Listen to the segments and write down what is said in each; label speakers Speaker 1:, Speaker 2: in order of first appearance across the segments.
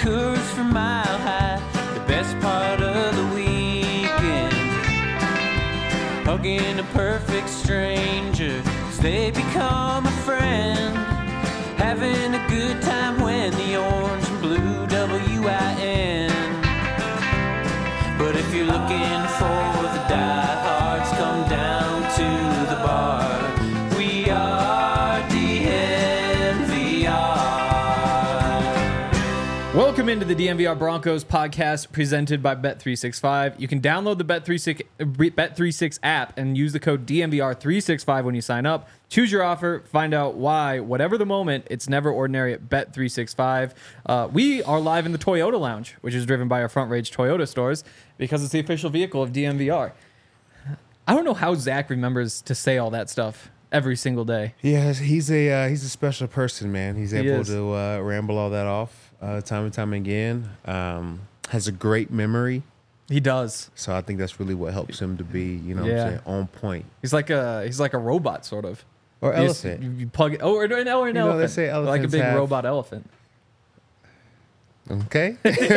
Speaker 1: Coors from Mile High, the best part of the weekend. Hugging a perfect stranger as they become a friend. Having a good time when the orange and blue WIN. But if you're looking for the diehards, come down to the bar. We are DNVR.
Speaker 2: Welcome into the DNVR Broncos podcast presented by Bet365. You can download the Bet36 app and use the code DNVR365 when you sign up. Choose your offer, find out why, whatever the moment, it's never ordinary at Bet365. We are live in the Toyota Lounge, which is driven by our Front Range Toyota stores because it's the official vehicle of DNVR. I don't know how Zach remembers to say all that stuff every single day.
Speaker 3: Yeah, he's a special person, man. He's able to ramble all that off time and time again. Has a great memory.
Speaker 2: He does.
Speaker 3: So I think that's really what helps him to be, what I'm saying, on point.
Speaker 2: He's like a robot, sort of.
Speaker 3: Or elephant.
Speaker 2: You plug it. Oh, or an elephant.
Speaker 3: They say elephants
Speaker 2: like a big
Speaker 3: have...
Speaker 2: robot elephant.
Speaker 3: Okay.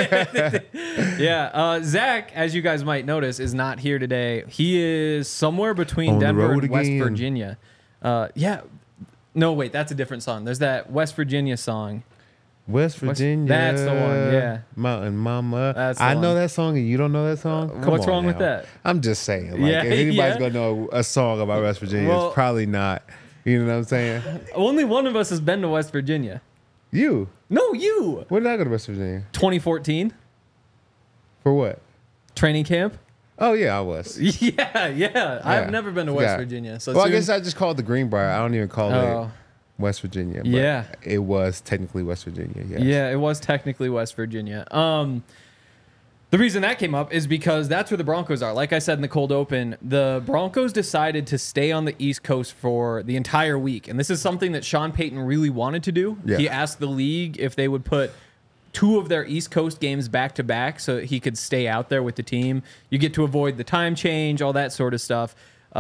Speaker 2: Yeah. Zach, as you guys might notice, is not here today. He is somewhere between
Speaker 3: On the
Speaker 2: Denver
Speaker 3: road
Speaker 2: and West
Speaker 3: again.
Speaker 2: Virginia. Yeah. No, wait, that's a different song. There's that West Virginia song.
Speaker 3: West Virginia.
Speaker 2: That's the one, yeah.
Speaker 3: Mountain Mama.
Speaker 2: That's the
Speaker 3: I
Speaker 2: one.
Speaker 3: know that song and you don't know that song? Come
Speaker 2: What's
Speaker 3: on
Speaker 2: wrong with
Speaker 3: now.
Speaker 2: that?
Speaker 3: I'm just saying. Like,
Speaker 2: Yeah,
Speaker 3: if anybody's
Speaker 2: yeah.
Speaker 3: going to know a song about West Virginia,
Speaker 2: Well-
Speaker 3: it's probably not. You know what I'm saying?
Speaker 2: Only one of us has been to West Virginia.
Speaker 3: You.
Speaker 2: No, you.
Speaker 3: When did I go to West Virginia?
Speaker 2: 2014
Speaker 3: For what?
Speaker 2: training camp.
Speaker 3: Oh, yeah, I was.
Speaker 2: Yeah. I've never been to West
Speaker 3: Yeah.
Speaker 2: Virginia. So
Speaker 3: Well, I
Speaker 2: soon-
Speaker 3: guess I just called the Greenbrier. I don't even call
Speaker 2: Oh.
Speaker 3: it West Virginia. But
Speaker 2: Yeah.
Speaker 3: It was technically West Virginia, yes.
Speaker 2: Yeah, it was technically West Virginia. The reason that came up is because that's where the Broncos are. Like I said in the cold open, the Broncos decided to stay on the East Coast for the entire week. And this is something that Sean Payton really wanted to do.
Speaker 3: Yeah.
Speaker 2: He asked the league if they would put 2 of their East Coast games back to back so that he could stay out there with the team. You get to avoid the time change, all that sort of stuff.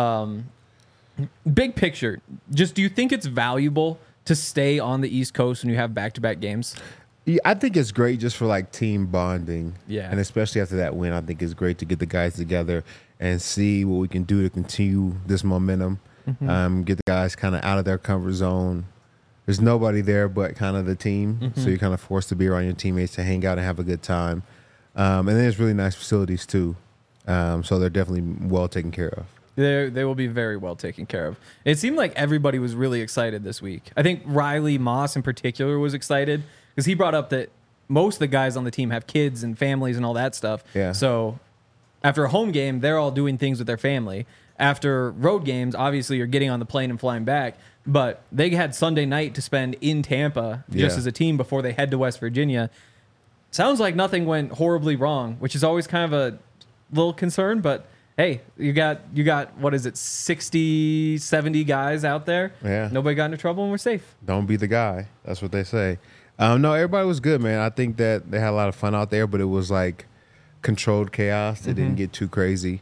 Speaker 2: Big picture, just do you think it's valuable to stay on the East Coast when you have back-to-back games?
Speaker 3: Yeah, I think it's great just for like team bonding.
Speaker 2: Yeah.
Speaker 3: And especially after that win, I think it's great to get the guys together and see what we can do to continue this momentum. Get the guys kind of out of their comfort zone. There's nobody there but kind of the team. So you're kind of forced to be around your teammates to hang out and have a good time. And then there's really nice facilities too. So they're definitely well taken care of.
Speaker 2: They will be very well taken care of. It seemed like everybody was really excited this week. I think Riley Moss in particular was excited because he brought up that most of the guys on the team have kids and families and all that stuff.
Speaker 3: Yeah.
Speaker 2: So after a home game, they're all doing things with their family. After road games, obviously you're getting on the plane and flying back. But they had Sunday night to spend in Tampa just
Speaker 3: Yeah.
Speaker 2: as a team before they head to West Virginia. Sounds like nothing went horribly wrong, which is always kind of a little concern, but hey, you got what is it, 60, 70 guys out there.
Speaker 3: Yeah.
Speaker 2: Nobody got into trouble and we're safe.
Speaker 3: Don't be the guy. That's what they say. No, everybody was good, man. I think that they had a lot of fun out there, but it was like controlled chaos. It didn't get too crazy.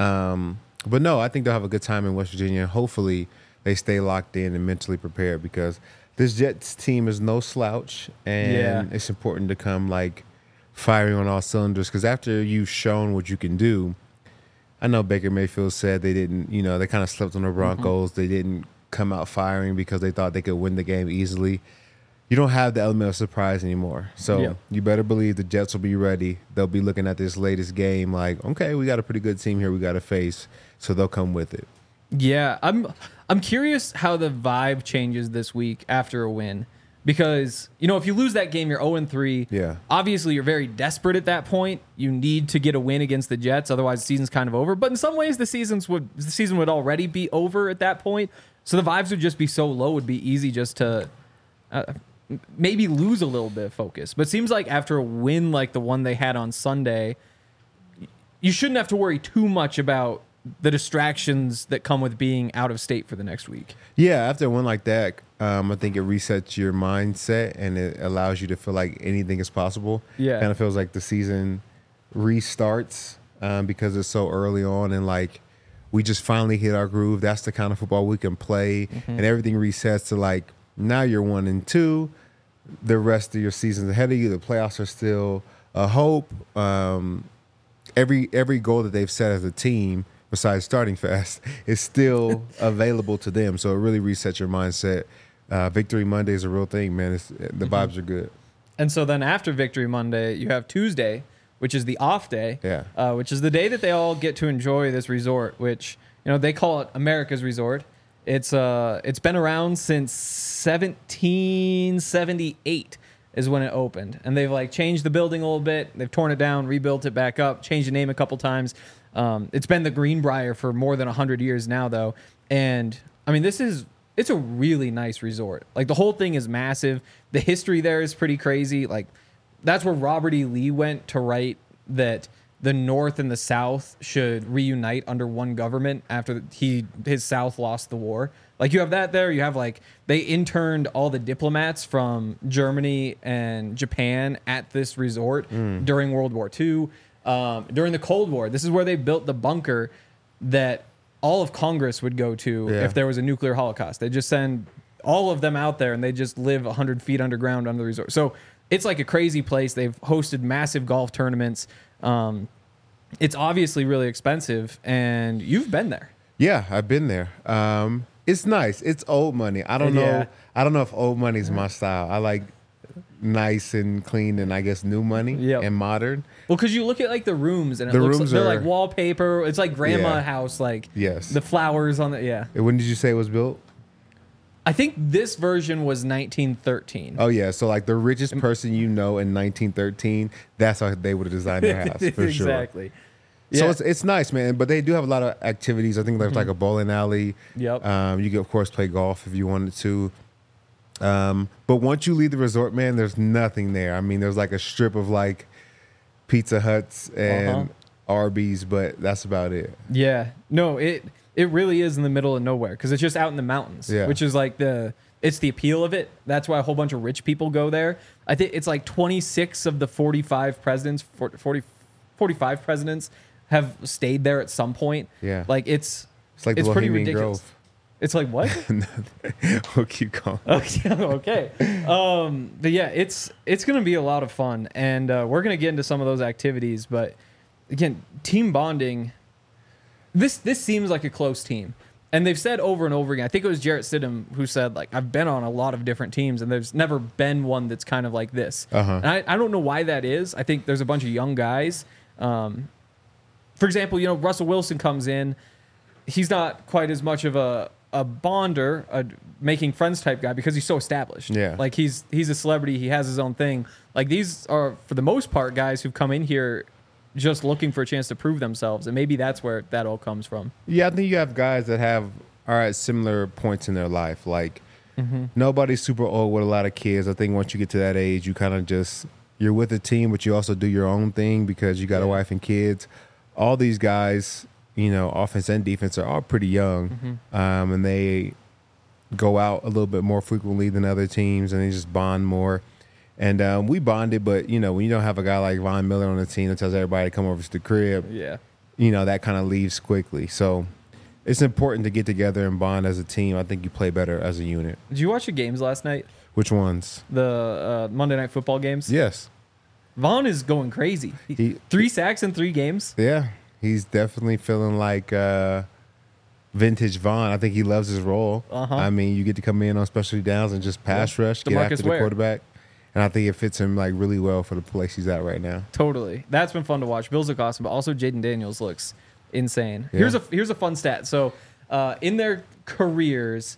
Speaker 3: But no, I think they'll have a good time in West Virginia. Hopefully they stay locked in and mentally prepared because this Jets team is no slouch, and it's important to come like firing on all cylinders because after you've shown what you can do, I know Baker Mayfield said they didn't, they kind of slept on the Broncos. They didn't come out firing because they thought they could win the game easily. You don't have the element of surprise anymore. So you better believe the Jets will be ready. They'll be looking at this latest game like, okay, we got a pretty good team here we got to face. So they'll come with it.
Speaker 2: Yeah, I'm curious how the vibe changes this week after a win. Because, if you lose that game, you're 0-3.
Speaker 3: Yeah.
Speaker 2: Obviously, you're very desperate at that point. You need to get a win against the Jets. Otherwise, the season's kind of over. But in some ways, the season would already be over at that point. So the vibes would just be so low. It would be easy just to maybe lose a little bit of focus. But it seems like after a win like the one they had on Sunday, you shouldn't have to worry too much about the distractions that come with being out of state for the next week.
Speaker 3: Yeah, after one like that, I think it resets your mindset and it allows you to feel like anything is possible.
Speaker 2: Yeah.
Speaker 3: Kind of feels like the season restarts because it's so early on and like we just finally hit our groove. That's the kind of football we can play and everything resets to like now you're 1-2. the rest of your seasons ahead of you. The playoffs are still a hope. Every goal that they've set as a team, besides starting fast, is still available to them. So it really resets your mindset. Victory Monday is a real thing, man. The vibes are good.
Speaker 2: And so then after Victory Monday, you have Tuesday, which is the off day, which is the day that they all get to enjoy this resort, which, they call it America's Resort. It's been around since 1778 is when it opened. And they've changed the building a little bit. They've torn it down, rebuilt it back up, changed the name a couple times. It's been the Greenbrier for more than 100 years now, though. And I mean, it's a really nice resort. The whole thing is massive. The history there is pretty crazy. That's where Robert E. Lee went to write that the North and the South should reunite under one government after his South lost the war. You have that there. You have they interned all the diplomats from Germany and Japan at this resort during World War II. During the Cold War, this is where they built the bunker that all of Congress would go to if there was a nuclear holocaust. They just send all of them out there and they just live 100 feet underground under the resort. So it's a crazy place. They've hosted massive golf tournaments. It's obviously really expensive, and you've been there.
Speaker 3: Yeah, I've been there. It's nice. It's old money. I don't know. I don't know if old money is my style. I like nice and clean and I guess new money and modern.
Speaker 2: Well, because you look at the rooms and it looks they're like wallpaper. It's like grandma house.
Speaker 3: Yes,
Speaker 2: the flowers on the
Speaker 3: When did you say it was built?
Speaker 2: I think this version was 1913.
Speaker 3: Oh yeah, so the richest person in 1913, that's how they would have designed their house for sure.
Speaker 2: Exactly.
Speaker 3: So it's nice, man. But they do have a lot of activities. I think there's a bowling alley.
Speaker 2: Yep.
Speaker 3: You can of course play golf if you wanted to. But once you leave the resort, man, there's nothing there. I mean, there's a strip of Pizza Huts and Arby's, but that's about it.
Speaker 2: Yeah. No, it really is in the middle of nowhere because it's just out in the mountains, which is it's the appeal of it. That's why a whole bunch of rich people go there. I think it's 26 of the 45 presidents, 45 presidents have stayed there at some point.
Speaker 3: Yeah.
Speaker 2: It's
Speaker 3: the
Speaker 2: pretty
Speaker 3: Bohemian
Speaker 2: ridiculous.
Speaker 3: Grove.
Speaker 2: It's what?
Speaker 3: We'll keep going.
Speaker 2: Okay. But yeah, it's going to be a lot of fun, and we're going to get into some of those activities. But again, team bonding. This seems like a close team, and they've said over and over again. I think it was Jarrett Stidham who said I've been on a lot of different teams, and there's never been one that's kind of like this. And I don't know why that is. I think there's a bunch of young guys. For example, Russell Wilson comes in. He's not quite as much of a bonder, a making friends type guy because he's so established.
Speaker 3: Yeah.
Speaker 2: He's a celebrity. He has his own thing. These are, for the most part, guys who've come in here just looking for a chance to prove themselves. And maybe that's where that all comes from.
Speaker 3: Yeah, I think you have guys that are at similar points in their life. Nobody's super old with a lot of kids. I think once you get to that age, you kind of you're with a team, but you also do your own thing because you got a wife and kids. All these guys, offense and defense are all pretty young, and they go out a little bit more frequently than other teams, and they just bond more. And we bonded, but when you don't have a guy like Von Miller on the team that tells everybody to come over to the crib, that kind of leaves quickly. So it's important to get together and bond as a team. I think you play better as a unit.
Speaker 2: Did you watch the games last night?
Speaker 3: Which ones?
Speaker 2: The Monday Night Football games?
Speaker 3: Yes.
Speaker 2: Vaughn is going crazy. 3 sacks in 3 games.
Speaker 3: Yeah. He's definitely feeling like vintage Vaughn. I think he loves his role. I mean, you get to come in on specialty downs and just pass rush, get after the quarterback. And I think it fits him really well for the place he's at right now.
Speaker 2: Totally. That's been fun to watch. Bills look awesome, but also Jaden Daniels looks insane. Yeah. Here's a fun stat. So in their careers,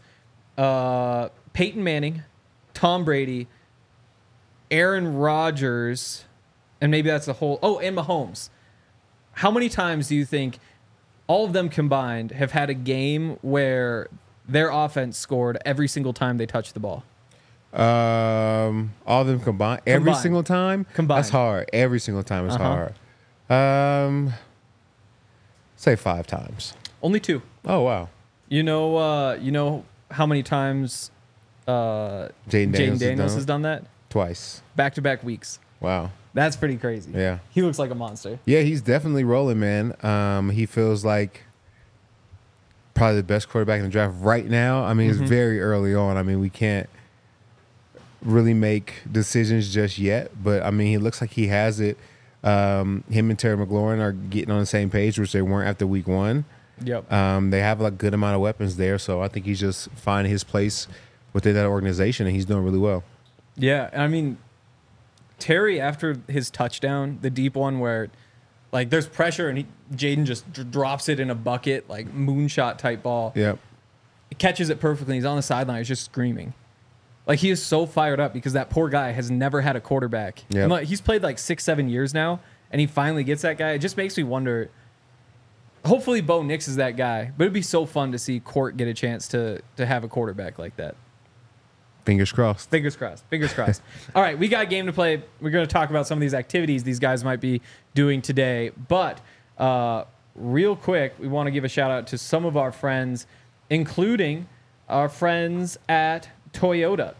Speaker 2: Peyton Manning, Tom Brady, Aaron Rodgers, and maybe that's the whole... Oh, and Mahomes. How many times do you think all of them combined have had a game where their offense scored every single time they touched the ball?
Speaker 3: All of them combined? Every single time?
Speaker 2: Combined.
Speaker 3: That's hard. Every single time is hard. Say 5 times.
Speaker 2: Only 2.
Speaker 3: Oh, wow.
Speaker 2: You know how many times Jaden Daniels has done that?
Speaker 3: Twice.
Speaker 2: Back-to-back weeks.
Speaker 3: Wow.
Speaker 2: That's pretty crazy.
Speaker 3: Yeah.
Speaker 2: He looks like a monster.
Speaker 3: Yeah, he's definitely rolling, man. He feels like probably the best quarterback in the draft right now. I mean, it's very early on. I mean, we can't really make decisions just yet. But I mean, he looks like he has it. Him and Terry McLaurin are getting on the same page, which they weren't after week one.
Speaker 2: Yep.
Speaker 3: They have a good amount of weapons there, so I think he's just finding his place within that organization, and he's doing really well.
Speaker 2: Yeah, I mean, Terry, after his touchdown, the deep one where, like, there's pressure and Jaden just drops it in a bucket, like moonshot type ball.
Speaker 3: Yep.
Speaker 2: He catches it perfectly. He's on the sideline. He's just screaming. Like, he is so fired up because that poor guy has never had a quarterback.
Speaker 3: Yep.
Speaker 2: And, like, he's played like 6-7 years now, and he finally gets that guy. It just makes me wonder. Hopefully, Bo Nix is that guy, but it'd be so fun to see Court get a chance to have a quarterback like that.
Speaker 3: Fingers crossed.
Speaker 2: Fingers crossed. Fingers crossed. All right, we got a game to play. We're going to talk about some of these activities these guys might be doing today. But real quick, we want to give a shout out to some of our friends, including our friends at Toyota.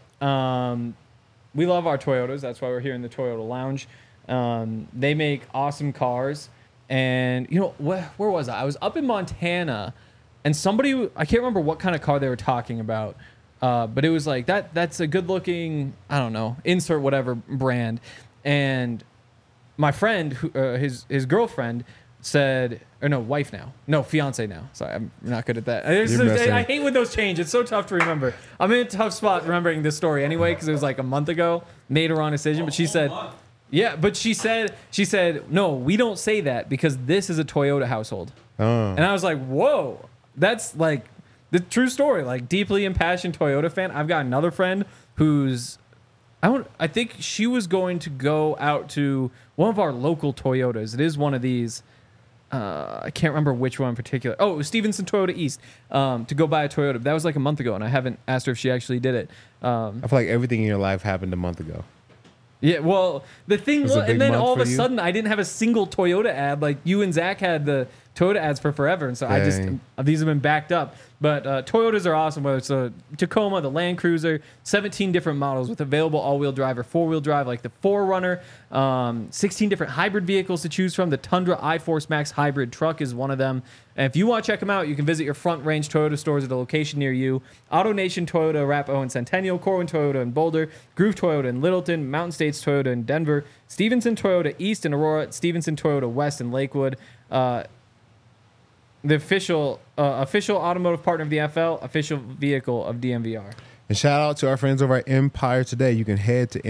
Speaker 2: We love our Toyotas. That's why we're here in the Toyota Lounge. They make awesome cars. And, you know, where was I? I was up in Montana, and somebody, I can't remember what kind of car they were talking about. But it was like, that's a good looking, I don't know, insert whatever brand. And my friend, his girlfriend said, or no, wife now. No, fiance now. Sorry, I'm not good at that. I hate when those change. It's so tough to remember. I'm in a tough spot remembering this story anyway, because it was like a month ago, made a wrong decision. But she said, yeah, but she said, no, we don't say that because this is a Toyota household. And I was like, whoa, that's like, the true story, like deeply impassioned Toyota fan. I've got another friend who's, I think she was going to go out to one of our local Toyotas. It is one of these. I can't remember which one in particular. Oh, it was Stevenson Toyota East to go buy a Toyota. That was like a month ago, and I haven't asked her if she actually did it.
Speaker 3: I feel like everything in your life happened a month ago.
Speaker 2: Yeah, well, the thing was, and then all of a
Speaker 3: you?
Speaker 2: sudden, I didn't have a single Toyota ad. Like you and Zach had the Toyota ads for forever, and so these have been backed up. But Toyotas are awesome, whether it's a Tacoma, the Land Cruiser, 17 different models with available all-wheel drive or four-wheel drive, like the 4Runner, 16 different hybrid vehicles to choose from. The Tundra iForce Max hybrid truck is one of them. And if you want to check them out, you can visit your Front Range Toyota stores at a location near you. Auto Nation Toyota, Arapahoe and Centennial, Corwin Toyota in Boulder, Groove Toyota in Littleton, Mountain States Toyota in Denver, Stevenson Toyota East in Aurora, Stevenson Toyota West in Lakewood. The official automotive partner of the NFL, official vehicle of DMVR.
Speaker 3: And shout out to our friends over at Empire Today. You can head to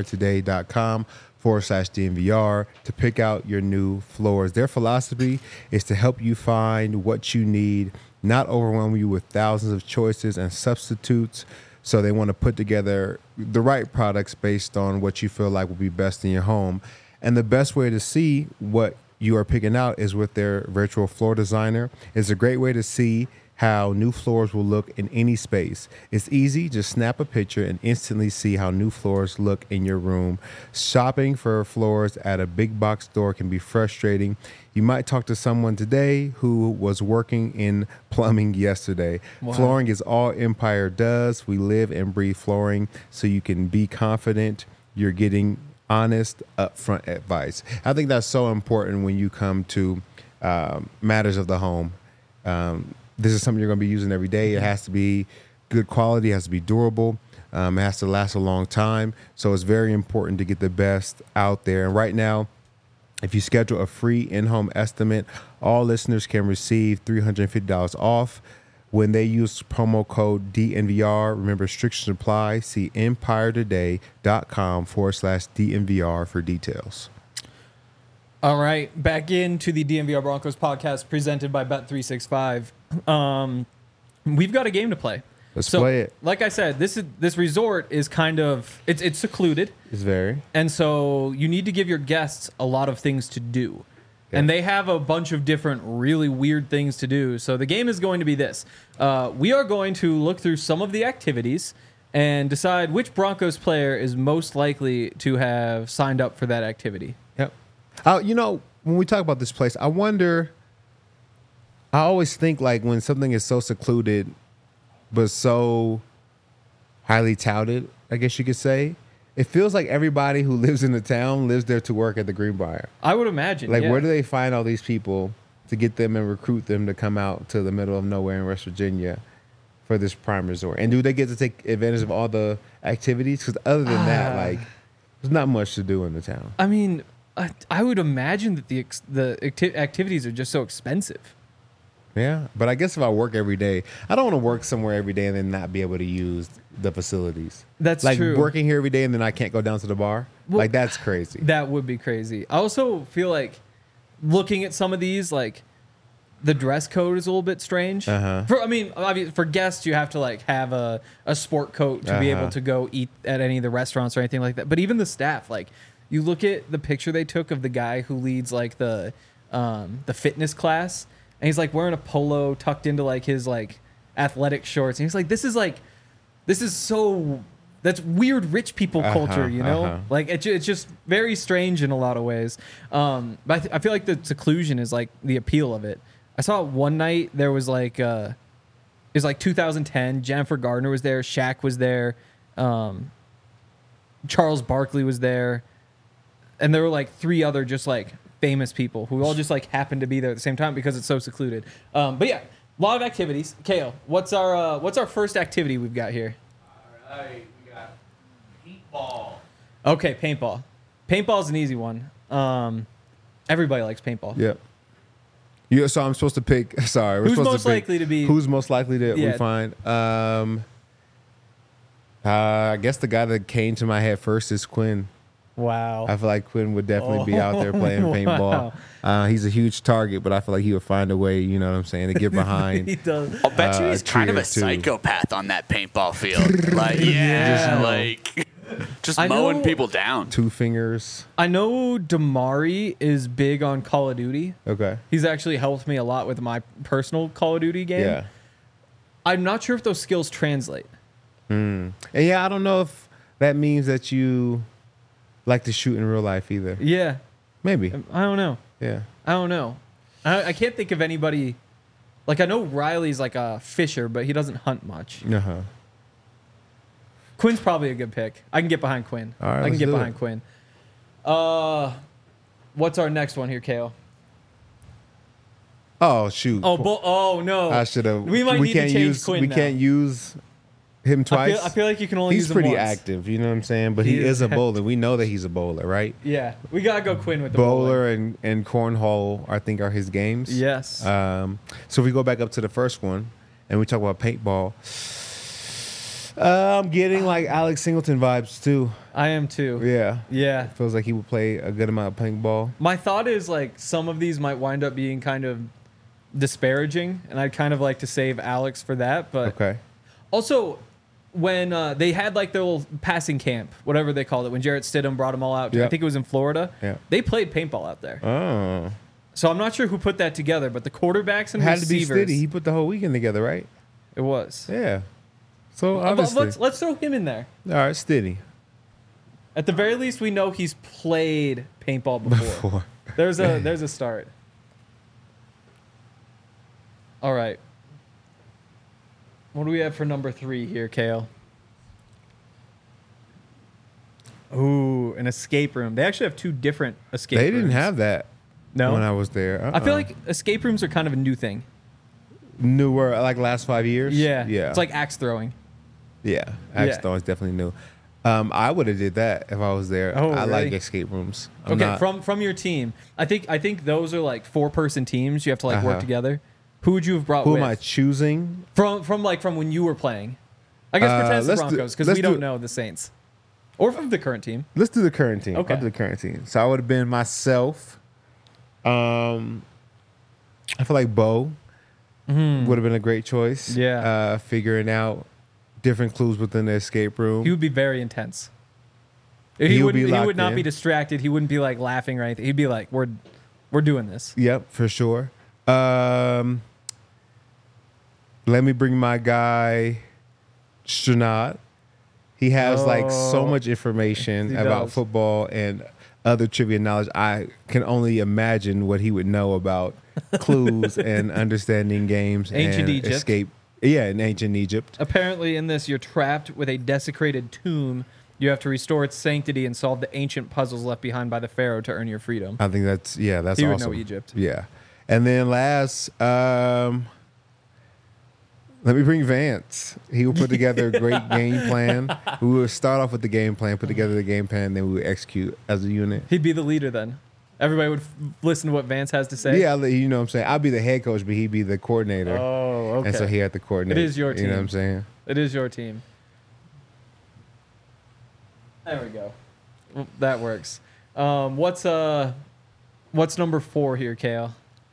Speaker 3: empiretoday.com/DMVR to pick out your new floors. Their philosophy is to help you find what you need, not overwhelm you with thousands of choices and substitutes. So they want to put together the right products based on what you feel like will be best in your home. And the best way to see what you are picking out is with their virtual floor designer. It's a great way to see how new floors will look in any space. It's easy, just snap a picture and instantly see how new floors look in your room. Shopping for floors at a big box store can be frustrating. You might talk to someone today who was working in plumbing yesterday. Wow. Flooring is all Empire does. We live and breathe flooring, so you can be confident you're getting honest, upfront advice. I think that's so important when you come to matters of the home. This is something you're going to be using every day. It has to be good quality. It has to be durable. It has to last a long time. So it's very important to get the best out there. And right now, if you schedule a free in-home estimate, all listeners can receive $350 off when they use promo code DNVR. Remember, restrictions apply. See empiretoday.com/DNVR for details.
Speaker 2: All right, back into the DNVR Broncos podcast presented by Bet365. We've got a game to play.
Speaker 3: Let's play it.
Speaker 2: Like I said, this resort is kind of it's secluded.
Speaker 3: It's very.
Speaker 2: And so you need to give your guests a lot of things to do. Yeah. And they have a bunch of different really weird things to do. So the game is going to be this. We are going to look through some of the activities and decide which Broncos player is most likely to have signed up for that activity.
Speaker 3: Yep. You know, when we talk about this place, I always think like when something is so secluded but so highly touted, I guess you could say, it feels like everybody who lives in the town lives there to work at the Greenbrier.
Speaker 2: I would imagine.
Speaker 3: Like, where do they find all these people to get them and recruit them to come out to the middle of nowhere in West Virginia for this prime resort? And do they get to take advantage of all the activities? Because other than that, like, there's not much to do in the town.
Speaker 2: I mean, I would imagine that the activities are just so expensive.
Speaker 3: Yeah, but I guess if I work every day, I don't want to work somewhere every day and then not be able to use the facilities.
Speaker 2: That's
Speaker 3: like
Speaker 2: true.
Speaker 3: Working here every day and then I can't go down to the bar.
Speaker 2: Well,
Speaker 3: like that's crazy.
Speaker 2: That would be crazy. I also feel like looking at some of these, like the dress code is a little bit strange. For guests, you have to like have a sport coat to be able to go eat at any of the restaurants or anything like that. But even the staff, like you look at the picture they took of the guy who leads like the fitness class. And he's like wearing a polo tucked into like his like athletic shorts. And he's like, this is so, that's weird rich people culture, you know? Like it's just very strange in a lot of ways. But I feel like the seclusion is like the appeal of it. I saw it one night, there was like, it was like 2010. Jennifer Gardner was there. Shaq was there. Charles Barkley was there. And there were like 3 other just like famous people who all just like happened to be there at the same time because it's so secluded. But yeah, a lot of activities. Kale, what's our first activity we've got here?
Speaker 1: All right, we got paintball.
Speaker 2: Okay, paintball. Paintball's an easy one. Everybody likes paintball.
Speaker 3: Yep. Yeah, so I'm supposed to pick. Sorry,
Speaker 2: who's most likely to be?
Speaker 3: Who's most likely to we find? I guess the guy that came to my head first is Quinn.
Speaker 2: Wow.
Speaker 3: I feel like Quinn would definitely be out there playing paintball. He's a huge target, but I feel like he would find a way, you know what I'm saying, to get behind.
Speaker 2: He does.
Speaker 4: I'll bet you he's kind of a
Speaker 3: too.
Speaker 4: psychopath on that paintball field. Like, yeah, like just mowing people down.
Speaker 3: 2 fingers.
Speaker 2: I know Damari is big on Call of Duty.
Speaker 3: Okay.
Speaker 2: He's actually helped me a lot with my personal Call of Duty game.
Speaker 3: Yeah.
Speaker 2: I'm not sure if those skills translate.
Speaker 3: And yeah, I don't know if that means that you like to shoot in real life either.
Speaker 2: Yeah.
Speaker 3: Maybe.
Speaker 2: I don't know.
Speaker 3: Yeah.
Speaker 2: I don't know. I can't think of anybody. Like, I know Riley's like a fisher, but he doesn't hunt much.
Speaker 3: Uh-huh.
Speaker 2: Quinn's probably a good pick. I can get behind Quinn.
Speaker 3: All right,
Speaker 2: I can
Speaker 3: let's
Speaker 2: get
Speaker 3: do
Speaker 2: behind
Speaker 3: it.
Speaker 2: Quinn. What's our next one here, Kale?
Speaker 3: Oh, shoot.
Speaker 2: Oh no.
Speaker 3: I should have.
Speaker 2: We might need to change Quinn
Speaker 3: We
Speaker 2: now.
Speaker 3: can't use him twice.
Speaker 2: I feel like you can only
Speaker 3: He's
Speaker 2: use him
Speaker 3: pretty
Speaker 2: once.
Speaker 3: active, you know what I'm saying? But he is a bowler. We know that he's a bowler, right?
Speaker 2: Yeah, we gotta go Quinn with the
Speaker 3: Bowler and cornhole, I think, are his games.
Speaker 2: Yes.
Speaker 3: So if we go back up to the first one and we talk about paintball, I'm getting like Alex Singleton vibes too.
Speaker 2: I am too.
Speaker 3: Yeah.
Speaker 2: Yeah.
Speaker 3: Feels like he would play a good amount of paintball.
Speaker 2: My thought is like some of these might wind up being kind of disparaging, and I'd kind of like to save Alex for that. But
Speaker 3: Okay.
Speaker 2: also, when they had like their little passing camp, whatever they called it, when Jarrett Stidham brought them all out, I
Speaker 3: Yep.
Speaker 2: think it was in Florida.
Speaker 3: Yeah.
Speaker 2: They played paintball out there.
Speaker 3: Oh.
Speaker 2: So I'm not sure who put that together, but the quarterbacks and
Speaker 3: Had to be
Speaker 2: receivers.
Speaker 3: Stiddy. He put the whole weekend together, right?
Speaker 2: It was.
Speaker 3: Yeah. So obviously.
Speaker 2: Let's throw him in there.
Speaker 3: All right, Stiddy.
Speaker 2: At the very least, we know he's played paintball before. There's a start. All right. What do we have for number 3 here, Kale? Ooh, an escape room. They actually have 2 different escape rooms.
Speaker 3: They didn't have that
Speaker 2: No?
Speaker 3: when I was there.
Speaker 2: I feel like escape rooms are kind of a new thing.
Speaker 3: newer, like last 5 years.
Speaker 2: Yeah.
Speaker 3: Yeah.
Speaker 2: It's like axe throwing.
Speaker 3: Yeah. Axe
Speaker 2: Yeah.
Speaker 3: throwing is definitely new. I would have did that if I was there.
Speaker 2: Oh,
Speaker 3: I like
Speaker 2: really?
Speaker 3: escape rooms.
Speaker 2: From your team. I think those are like 4-person teams. You have to like work
Speaker 3: Uh-huh.
Speaker 2: together. Who would you have brought
Speaker 3: Who
Speaker 2: with?
Speaker 3: am I choosing?
Speaker 2: From when you were playing. I guess pretend it's the
Speaker 3: let's do-
Speaker 2: Broncos because
Speaker 3: let's
Speaker 2: we don't
Speaker 3: do-
Speaker 2: know the Saints. Or from the current team.
Speaker 3: Let's do the current team.
Speaker 2: Okay.
Speaker 3: I'll do the current team. So I would have been myself. I feel like Bo would have been a great choice.
Speaker 2: Yeah.
Speaker 3: Figuring out different clues within the escape room.
Speaker 2: He would be very intense.
Speaker 3: He would be
Speaker 2: He
Speaker 3: locked
Speaker 2: would not
Speaker 3: in.
Speaker 2: be distracted. He wouldn't be like laughing or anything. He'd be like, "We're doing this."
Speaker 3: Yep, for sure. Let me bring my guy, Stranad. He has like so much information
Speaker 2: He
Speaker 3: about
Speaker 2: does.
Speaker 3: football and other trivia knowledge. I can only imagine what he would know about clues and understanding games
Speaker 2: Ancient
Speaker 3: and
Speaker 2: Egypt.
Speaker 3: escape. Yeah, in ancient Egypt.
Speaker 2: Apparently, in this, you're trapped with a desecrated tomb. You have to restore its sanctity and solve the ancient puzzles left behind by the pharaoh to earn your freedom.
Speaker 3: I think that's
Speaker 2: He would
Speaker 3: awesome.
Speaker 2: know Egypt.
Speaker 3: Yeah. And then last, let Let me bring Vance. He will put together a great game plan. We will start off with the game plan, put together the game plan, then we will execute as a unit.
Speaker 2: He'd be the leader then. Everybody would listen to what Vance has to say.
Speaker 3: Yeah, you know what I'm saying? I'll be the head coach, but he'd be the coordinator.
Speaker 2: Oh, okay.
Speaker 3: And so he had to coordinate.
Speaker 2: It is your team.
Speaker 3: You know what I'm saying?
Speaker 2: It is your team. There we go. Well, that works. What's number 4 here, Kale?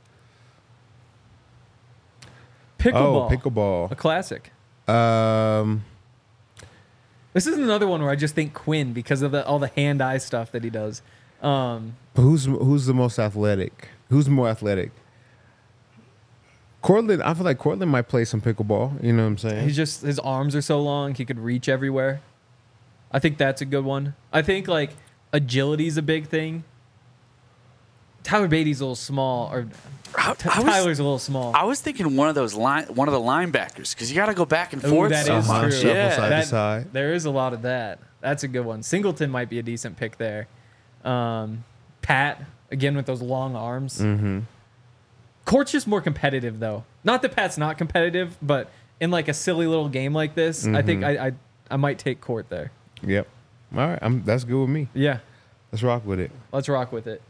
Speaker 2: Pickleball.
Speaker 3: Oh, pickleball.
Speaker 2: A classic.
Speaker 3: Um,
Speaker 2: This is another one where I just think Quinn because of all the hand-eye stuff that he does.
Speaker 3: who's the most athletic? Who's more athletic? Cortland. I feel like Cortland might play some pickleball. You know what I'm saying?
Speaker 2: His arms are so long, he could reach everywhere. I think that's a good one. I think like agility's a big thing. Tyler Beatty's a little small, or Tyler's a little small.
Speaker 4: I was thinking one of the linebackers because you got to go back and
Speaker 2: Ooh,
Speaker 4: forth.
Speaker 2: that
Speaker 4: so
Speaker 2: is
Speaker 4: much.
Speaker 2: true.
Speaker 3: Shuffle
Speaker 4: Yeah.
Speaker 3: side to side.
Speaker 2: There is a lot of that. That's a good one. Singleton might be a decent pick there. Pat, again, with those long arms.
Speaker 3: Mm-hmm.
Speaker 2: Court's just more competitive, though. Not that Pat's not competitive, but in like a silly little game like this, I think I might take Court there.
Speaker 3: Yep. All right. That's good with me.
Speaker 2: Yeah,
Speaker 3: Let's rock with it.
Speaker 2: let's rock with it.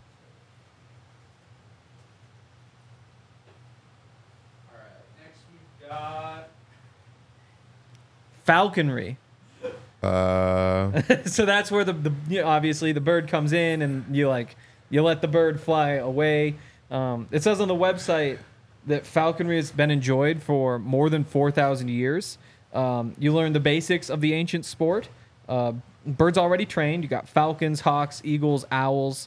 Speaker 2: All right, next we've got falconry. So that's where obviously the bird comes in and you let the bird fly away. It says on the website that falconry has been enjoyed for more than 4,000 years. You learn the basics of the ancient sport. Birds already trained. You got falcons, hawks, eagles, owls.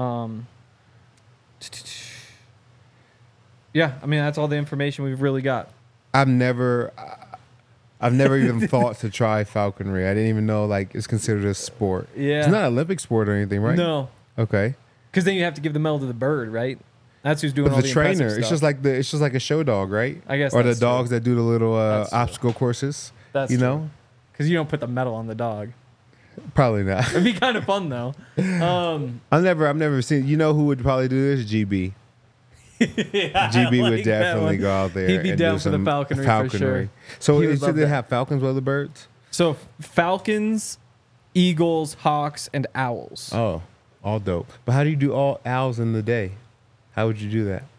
Speaker 2: Yeah, I mean that's all the information we've really got.
Speaker 3: I've never even thought to try falconry. I didn't even know like it's considered a sport.
Speaker 2: Yeah.
Speaker 3: It's not an Olympic sport or anything, right?
Speaker 2: No,
Speaker 3: Okay.
Speaker 2: because then you have to give the medal to the bird, right? That's who's doing
Speaker 3: But
Speaker 2: all
Speaker 3: the
Speaker 2: impressive
Speaker 3: trainer,
Speaker 2: stuff.
Speaker 3: it's just like a show dog, right?
Speaker 2: I guess
Speaker 3: Or the
Speaker 2: that's true.
Speaker 3: dogs that do the little
Speaker 2: That's true.
Speaker 3: obstacle courses.
Speaker 2: That's
Speaker 3: you
Speaker 2: true.
Speaker 3: know?
Speaker 2: Because you don't put the medal on the dog.
Speaker 3: Probably not.
Speaker 2: It'd be kind of fun though.
Speaker 3: I've never seen. You know who would probably do this? GB. GB would definitely go out there.
Speaker 2: He'd be
Speaker 3: and
Speaker 2: down
Speaker 3: do
Speaker 2: for the
Speaker 3: some
Speaker 2: falconry for sure.
Speaker 3: So
Speaker 2: He would
Speaker 3: should
Speaker 2: love
Speaker 3: they
Speaker 2: that.
Speaker 3: have falcons with other birds?
Speaker 2: So falcons, eagles, hawks, and owls.
Speaker 3: Oh, all dope. But how do you do all owls in the day? How would you do that?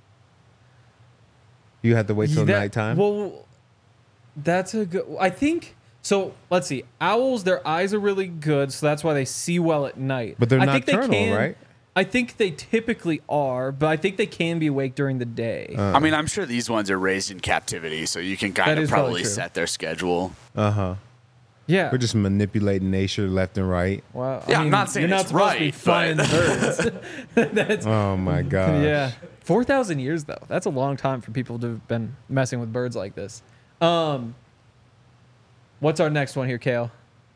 Speaker 3: You have to wait till nighttime.
Speaker 2: Well, that's a good. I think so. Let's see. Owls, their eyes are really good, so that's why they see well at night.
Speaker 3: But they're
Speaker 2: I think
Speaker 3: nocturnal, right?
Speaker 2: I think they typically are, but I think they can be awake during the day.
Speaker 4: I mean, I'm sure these ones are raised in captivity, so you can
Speaker 2: That
Speaker 4: kind of
Speaker 2: is probably
Speaker 4: probably
Speaker 2: true.
Speaker 4: set their schedule.
Speaker 2: Yeah.
Speaker 3: We're just manipulating nature left and right.
Speaker 2: Well,
Speaker 4: Yeah, I'm not saying
Speaker 2: you're not
Speaker 4: it's
Speaker 2: supposed to be
Speaker 4: right,
Speaker 2: flying
Speaker 4: but-
Speaker 2: birds. That's
Speaker 3: Oh my god.
Speaker 2: yeah. 4,000 years though. That's a long time for people to have been messing with birds like this. What's our next one here, Kale?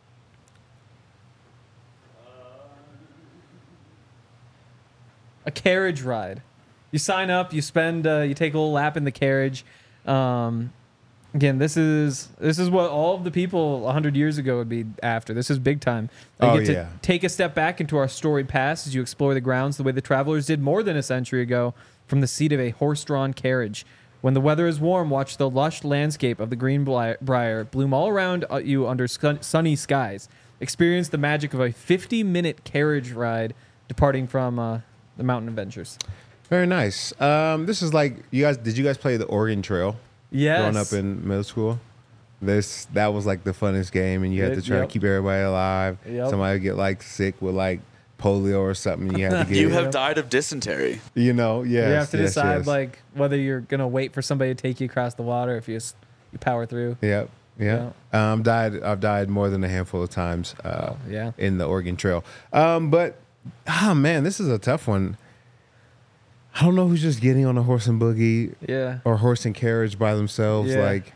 Speaker 2: A carriage ride. You sign up, you spend, you take a little lap in the carriage. Again, this is what all of the people 100 years ago would be after. This is big time. They
Speaker 3: Oh,
Speaker 2: get to
Speaker 3: yeah.
Speaker 2: take a step back into our storied past as you explore the grounds the way the travelers did more than a century ago from the seat of a horse-drawn carriage. When the weather is warm, watch the lush landscape of the Greenbrier bloom all around you under sunny skies. Experience the magic of a 50-minute carriage ride departing from the Mountain Adventures.
Speaker 3: Very nice. This is like you guys. Did you guys play the Oregon Trail?
Speaker 2: Yes.
Speaker 3: Growing up in middle school, that was like the funnest game, and you had to try to
Speaker 2: Yep.
Speaker 3: keep everybody alive.
Speaker 2: Yep.
Speaker 3: Somebody would get like sick with like polio or something. You had to get.
Speaker 4: You have died of dysentery.
Speaker 3: You know, yes.
Speaker 2: You have to
Speaker 3: yes,
Speaker 2: decide
Speaker 3: yes.
Speaker 2: like whether you're gonna wait for somebody to take you across the water if you power through.
Speaker 3: Yep. Yeah. I've died more than a handful of times.
Speaker 2: yeah.
Speaker 3: In the Oregon Trail. But man, this is a tough one. I don't know who's just getting on a horse and buggy
Speaker 2: Yeah.
Speaker 3: or horse and carriage by themselves.
Speaker 2: Yeah.
Speaker 3: Like,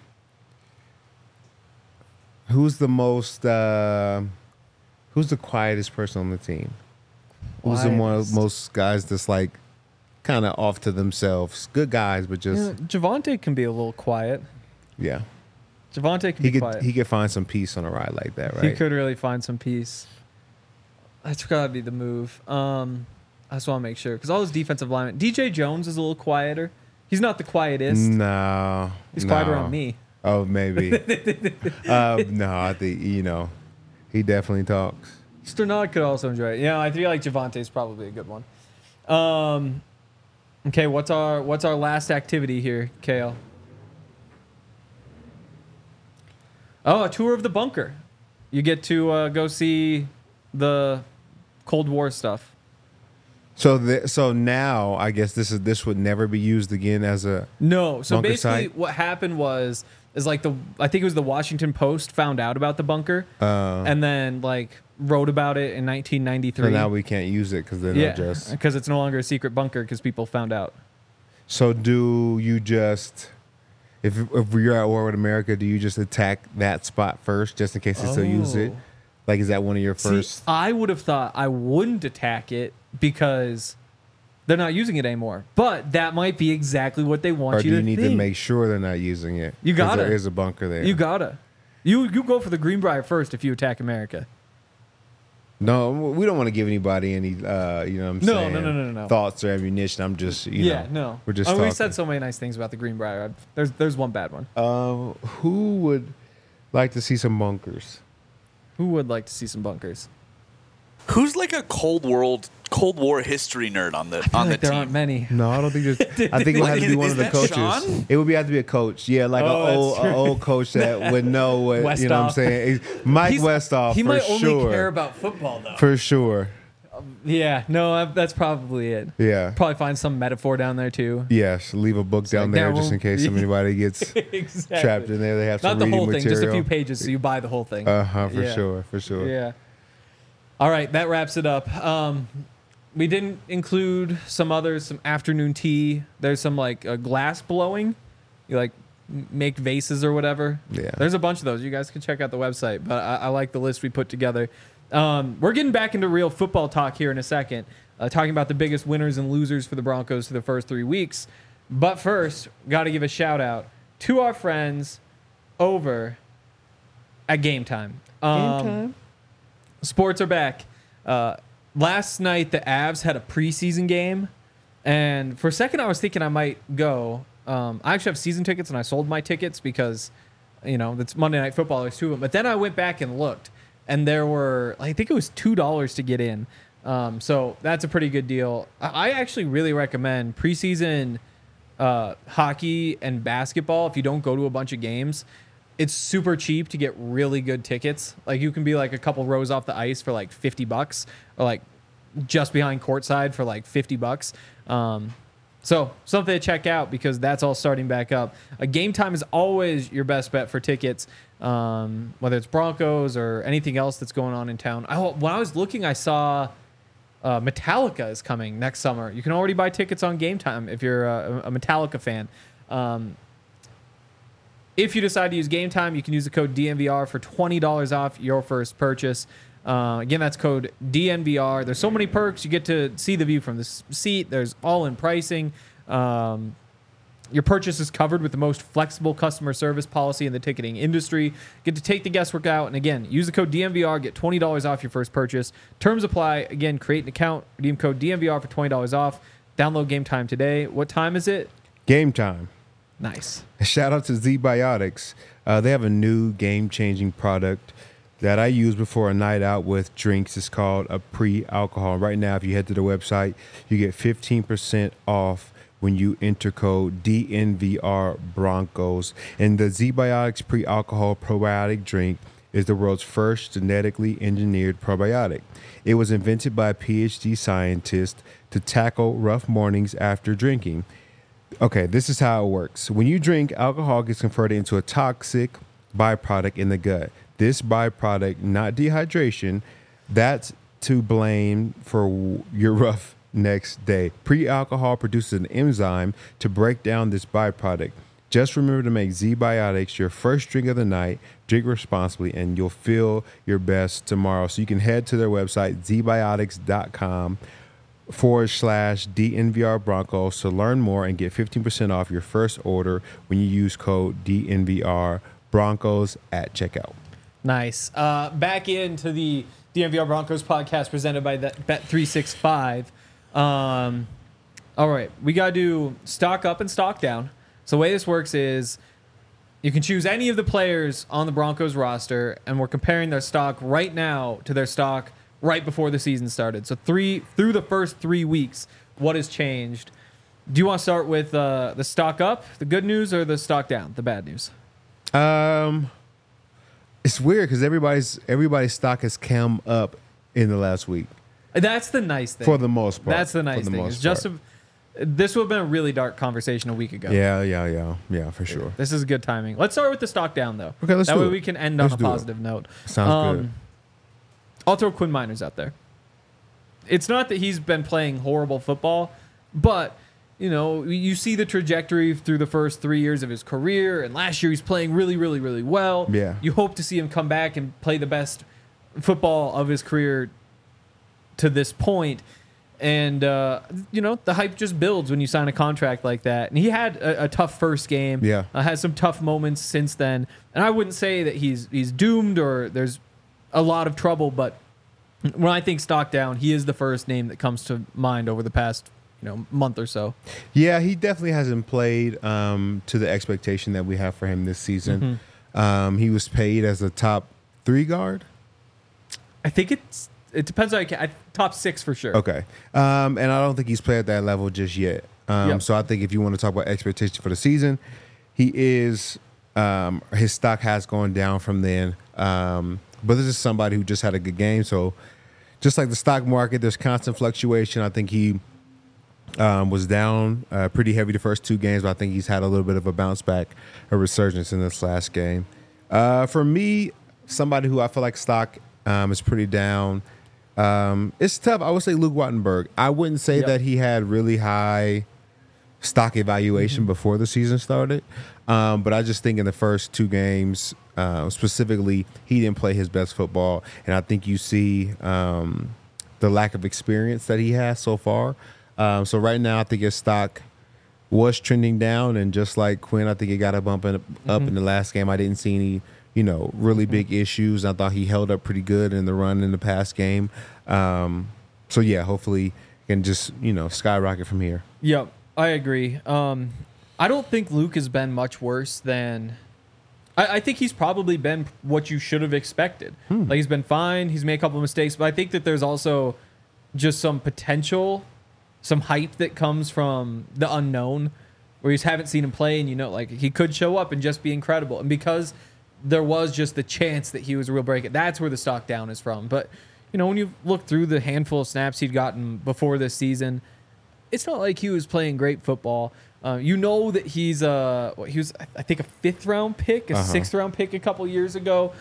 Speaker 3: who's the quietest person on the team? Who's the
Speaker 2: Quietest.
Speaker 3: most guys that's like kind of off to themselves? Good guys, but just
Speaker 2: Yeah, Javante can be a little quiet.
Speaker 3: yeah.
Speaker 2: Javante can
Speaker 3: He
Speaker 2: be
Speaker 3: could
Speaker 2: quiet.
Speaker 3: he could find some peace on a ride like that, right?
Speaker 2: He could really find some peace. That's gotta be the move. I just want to make sure because all his defensive linemen. DJ Jones is a little quieter. He's not the quietest.
Speaker 3: No.
Speaker 2: He's
Speaker 3: no.
Speaker 2: quiet around me.
Speaker 3: Oh, maybe. No, I think, he definitely talks.
Speaker 2: Sternod could also enjoy it. Yeah, I feel like Javante's probably a good one. Okay, what's our last activity here, Kale? Oh, a tour of the bunker. You get to go see the Cold War stuff.
Speaker 3: So now I guess this would never be used again as a
Speaker 2: No. So
Speaker 3: bunker
Speaker 2: basically,
Speaker 3: site?
Speaker 2: what happened is like I think it was the Washington Post found out about the bunker and then like wrote about it in 1993.
Speaker 3: So now we can't use it because they're not just.
Speaker 2: because it's no longer a secret bunker because people found out.
Speaker 3: So do you just, if you're at war with America, do you just attack that spot first just in case they still use it? Like, is that one of your first?
Speaker 2: See, I would have thought I wouldn't attack it because they're not using it anymore. But that might be exactly what they want
Speaker 3: Or
Speaker 2: you
Speaker 3: do
Speaker 2: to
Speaker 3: you need
Speaker 2: think.
Speaker 3: to make sure they're not using it?
Speaker 2: You
Speaker 3: 'Cause
Speaker 2: gotta.
Speaker 3: There is a bunker there.
Speaker 2: You gotta. You go for the Greenbrier first if you attack America.
Speaker 3: No, we don't want to give anybody any, you know what I'm
Speaker 2: No,
Speaker 3: saying?
Speaker 2: no.
Speaker 3: Thoughts or ammunition. I'm just,
Speaker 2: No.
Speaker 3: We're just
Speaker 2: I mean, we
Speaker 3: talking.
Speaker 2: said so many nice things about the Greenbrier. There's one bad one.
Speaker 3: Who would like to see some bunkers?
Speaker 2: Who would like to see some bunkers?
Speaker 4: Who's like a Cold War history nerd on the
Speaker 2: I feel
Speaker 4: on
Speaker 2: like
Speaker 4: the
Speaker 2: there
Speaker 4: team?
Speaker 2: aren't many.
Speaker 3: No, I don't think there's. I think it would have to be one
Speaker 4: Is
Speaker 3: of the
Speaker 4: that
Speaker 3: coaches.
Speaker 4: Sean?
Speaker 3: It would have to be a coach. Yeah, like
Speaker 2: Oh, that's
Speaker 3: an old coach that would know what you know what I'm
Speaker 2: Westhoff.
Speaker 3: saying. Mike Westhoff
Speaker 2: He
Speaker 3: for
Speaker 2: might
Speaker 3: sure.
Speaker 2: only care about football though.
Speaker 3: For sure.
Speaker 2: Yeah, no, that's probably it.
Speaker 3: Yeah.
Speaker 2: Probably find some metaphor down there too.
Speaker 3: Yes. Leave a book down
Speaker 2: like,
Speaker 3: there
Speaker 2: now
Speaker 3: just in case anybody gets
Speaker 2: Exactly.
Speaker 3: trapped in there. They have
Speaker 2: Not
Speaker 3: some
Speaker 2: the
Speaker 3: reading
Speaker 2: whole thing,
Speaker 3: material.
Speaker 2: just a few pages, so you buy the whole thing.
Speaker 3: For
Speaker 2: Yeah.
Speaker 3: sure. For sure.
Speaker 2: Yeah. All right, that wraps it up. We didn't include some afternoon tea. There's some like glass blowing. You like make vases or whatever.
Speaker 3: Yeah.
Speaker 2: There's a bunch of those. You guys can check out the website, but I like the list we put together. We're getting back into real football talk here in a second, talking about the biggest winners and losers for the Broncos for the first 3 weeks. But first, got to give a shout out to our friends over at Game Time. Sports are back. Last night, the Avs had a preseason game, and for a second, I was thinking I might go. I actually have season tickets, and I sold my tickets because, it's Monday Night Football. There's two of them. But then I went back and looked, and there were, I think it was $2 to get in. So that's a pretty good deal. I actually really recommend preseason hockey and basketball. If you don't go to a bunch of games, it's super cheap to get really good tickets. Like you can be like a couple rows off the ice for like $50 or like just behind courtside for like $50. So something to check out because that's all starting back up. Game Time is always your best bet for tickets, whether it's Broncos or anything else that's going on in town. When I was looking, I saw Metallica is coming next summer. You can already buy tickets on Game Time if you're a Metallica fan. If you decide to use Game Time, you can use the code DNVR for $20 off your first purchase. Again, that's code DNVR. There's so many perks. You get to see the view from the seat. There's all-in pricing. Your purchase is covered with the most flexible customer service policy in the ticketing industry. Get to take the guesswork out. And again, use the code DNVR. Get $20 off your first purchase. Terms apply. Again, create an account. Redeem code DNVR for $20 off. Download Game Time today. What time is it?
Speaker 3: Game Time.
Speaker 2: Nice.
Speaker 3: Shout out to Z-Biotics. They have a new game-changing product that I use before a night out with drinks. It's called a pre-alcohol. Right now, if you head to the website, you get 15% off when you enter code DNVR Broncos. And the Z-Biotics pre-alcohol probiotic drink is the world's first genetically engineered probiotic. It was invented by a PhD scientist to tackle rough mornings after drinking. Okay, this is how it works. When you drink, alcohol gets converted into a toxic byproduct in the gut. This byproduct, not dehydration, that's to blame for your rough next day. Pre-alcohol produces an enzyme to break down this byproduct. Just remember to make Z-Biotics your first drink of the night. Drink responsibly, and you'll feel your best tomorrow. So you can head to their website, zbiotics.com/DNVR Broncos to learn more and get 15% off your first order when you use code DNVR Broncos at checkout.
Speaker 2: Nice. Back into the DNVR Broncos podcast presented by Bet365. All right, we got to do stock up and stock down. So the way this works is you can choose any of the players on the Broncos roster, and we're comparing their stock right now to their stock right before the season started. So through the first 3 weeks, what has changed? Do you want to start with the stock up, the good news, or the stock down, the bad news?
Speaker 3: It's weird because everybody's stock has come up in the last week
Speaker 2: That's the nice thing.
Speaker 3: for the most part.
Speaker 2: That's the nice thing. It's just this would have been a really dark conversation a week ago.
Speaker 3: Yeah, for sure.
Speaker 2: This is good timing. Let's start with the stock down, though.
Speaker 3: Okay, let's
Speaker 2: that
Speaker 3: do
Speaker 2: way
Speaker 3: it.
Speaker 2: we can end
Speaker 3: Let's
Speaker 2: on a
Speaker 3: do it.
Speaker 2: positive note.
Speaker 3: Sounds good.
Speaker 2: I'll throw Quinn Miners out there. It's not that he's been playing horrible football, but you see the trajectory through the first 3 years of his career, and last year he's playing really, really, really well.
Speaker 3: Yeah.
Speaker 2: You hope to see him come back and play the best football of his career to this point. And, the hype just builds when you sign a contract like that. And he had a tough first game.
Speaker 3: Yeah.
Speaker 2: Had some tough moments since then. And I wouldn't say that he's doomed or there's a lot of trouble, but when I think stock down, he is the first name that comes to mind over the past month or so.
Speaker 3: Yeah, he definitely hasn't played to the expectation that we have for him this season.
Speaker 2: Mm-hmm.
Speaker 3: He was paid as a top 3 guard.
Speaker 2: I think it depends on top 6 for sure.
Speaker 3: Okay. And I don't think he's played at that level just yet.
Speaker 2: Yep.
Speaker 3: So I think if you want to talk about expectations for the season, he is his stock has gone down from then. But this is somebody who just had a good game. So just like the stock market, there's constant fluctuation. I think he was down pretty heavy the first 2 games, but I think he's had a little bit of a bounce back, a resurgence in this last game. For me, somebody who I feel like stock is pretty down. It's tough. I would say Luke Wattenberg. I wouldn't say that he had really high stock evaluation before the season started. But I just think in the first 2 games, specifically, he didn't play his best football. And I think you see the lack of experience that he has so far. So right now, I think his stock was trending down. And just like Quinn, I think it got a bump up in the last game. I didn't see any really big issues. I thought he held up pretty good in the run in the past game. So yeah, hopefully he can just, skyrocket from here.
Speaker 2: Yep, I agree. I don't think Luke has been much worse than... I think he's probably been what you should have expected. Like, he's been fine. He's made a couple of mistakes, but I think that there's also just some potential, some hype that comes from the unknown, where you just haven't seen him play, and he could show up and just be incredible. And because there was just the chance that he was a real breakout, that's where the stock down is from. But when you look through the handful of snaps he'd gotten before this season, it's not like he was playing great football. That he was, I think, a 5th round pick, a 6th round pick a couple years ago.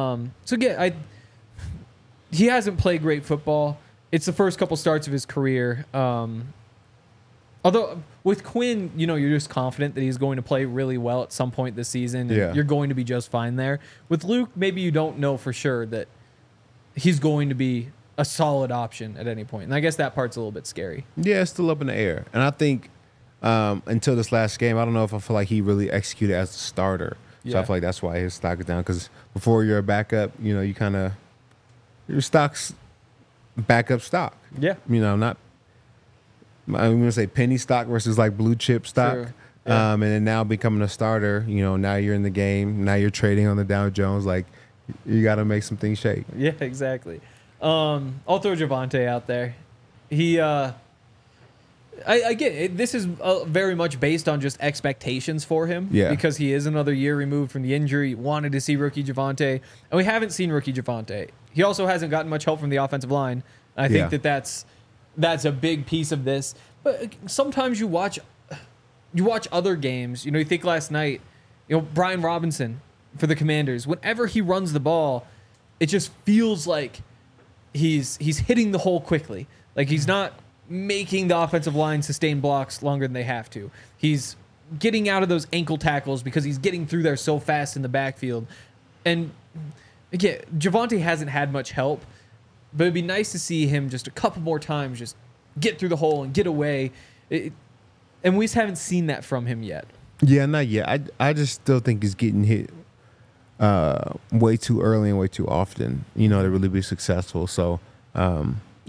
Speaker 2: He hasn't played great football. It's the first couple starts of his career. Although with Quinn, you're just confident that he's going to play really well at some point this season. And you're going to be just fine there. With Luke, maybe you don't know for sure that he's going to be a solid option at any point. And I guess that part's a little bit scary.
Speaker 3: Yeah, it's still up in the air. And I think until this last game, I don't know if I feel like he really executed as a starter. So I feel like that's why his stock is down. Because before you're a backup, you kind of, your stock's backup stock.
Speaker 2: Yeah.
Speaker 3: Not, I'm going to say penny stock versus like blue chip stock.
Speaker 2: Sure. Yeah.
Speaker 3: And then now becoming a starter, now you're in the game. Now you're trading on the Dow Jones. Like, you got to make some things shake.
Speaker 2: Yeah, exactly. I'll throw Javonte out there. He, I get it. This is very much based on just expectations for him.
Speaker 3: Yeah. Because
Speaker 2: he is another year removed from the injury. Wanted to see rookie Javonte. And we haven't seen rookie Javonte. He also hasn't gotten much help from the offensive line. I think that's a big piece of this. But sometimes you watch other games. You think last night, Brian Robinson for the Commanders, whenever he runs the ball, it just feels like he's hitting the hole quickly. Like, he's not making the offensive line sustain blocks longer than they have to. He's getting out of those ankle tackles because he's getting through there so fast in the backfield. And again, Javonte hasn't had much help, but it'd be nice to see him just a couple more times just get through the hole and get away. And we just haven't seen that from him yet.
Speaker 3: Yeah, not yet. I just still think he's getting hit way too early and way too often, to really be successful. So,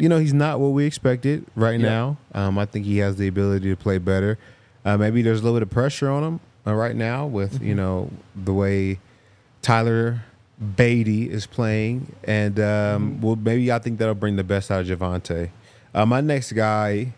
Speaker 3: he's not what we expected right now. I think he has the ability to play better. Maybe there's a little bit of pressure on him right now with, the way Tyler Beatty is playing. And, well, maybe I think that'll bring the best out of Javonte. My next guy,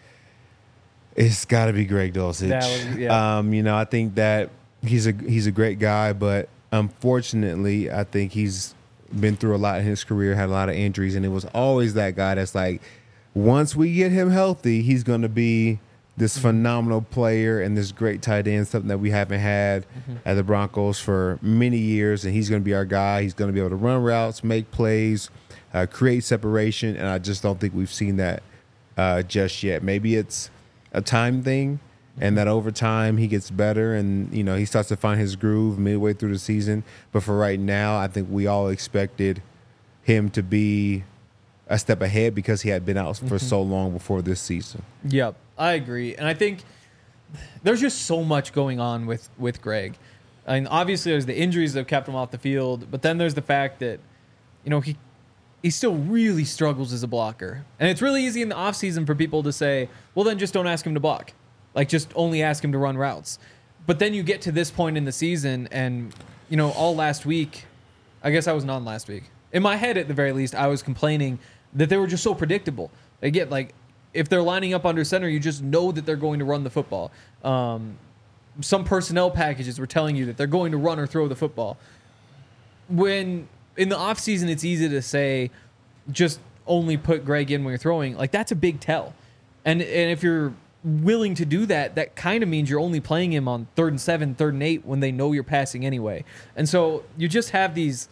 Speaker 3: it's got to be Greg Dulcich. I think that he's a great guy, but unfortunately, I think he's been through a lot in his career, had a lot of injuries, and it was always that guy that's like, once we get him healthy, he's going to be this phenomenal player and this great tight end, something that we haven't had at the Broncos for many years, and he's going to be our guy. He's going to be able to run routes, make plays, create separation, and I just don't think we've seen that just yet. Maybe it's a time thing, and that over time he gets better and, he starts to find his groove midway through the season. But for right now, I think we all expected him to be a step ahead because he had been out for so long before this season.
Speaker 2: Yep, I agree. And I think there's just so much going on with Greg. I mean, obviously there's the injuries that have kept him off the field, but then there's the fact that, he still really struggles as a blocker. And it's really easy in the offseason for people to say, well, then just don't ask him to block. Like, just only ask him to run routes. But then you get to this point in the season and, all last week, I guess I wasn't on last week. In my head, at the very least, I was complaining that they were just so predictable. Again, like, if they're lining up under center, you just know that they're going to run the football. Some personnel packages were telling you that they're going to run or throw the football. When in the offseason, it's easy to say, just only put Greg in when you're throwing. Like, that's a big tell. And if you're willing to do that, that kind of means you're only playing him on 3rd and 7, 3rd and 8 when they know you're passing anyway. And so you just have this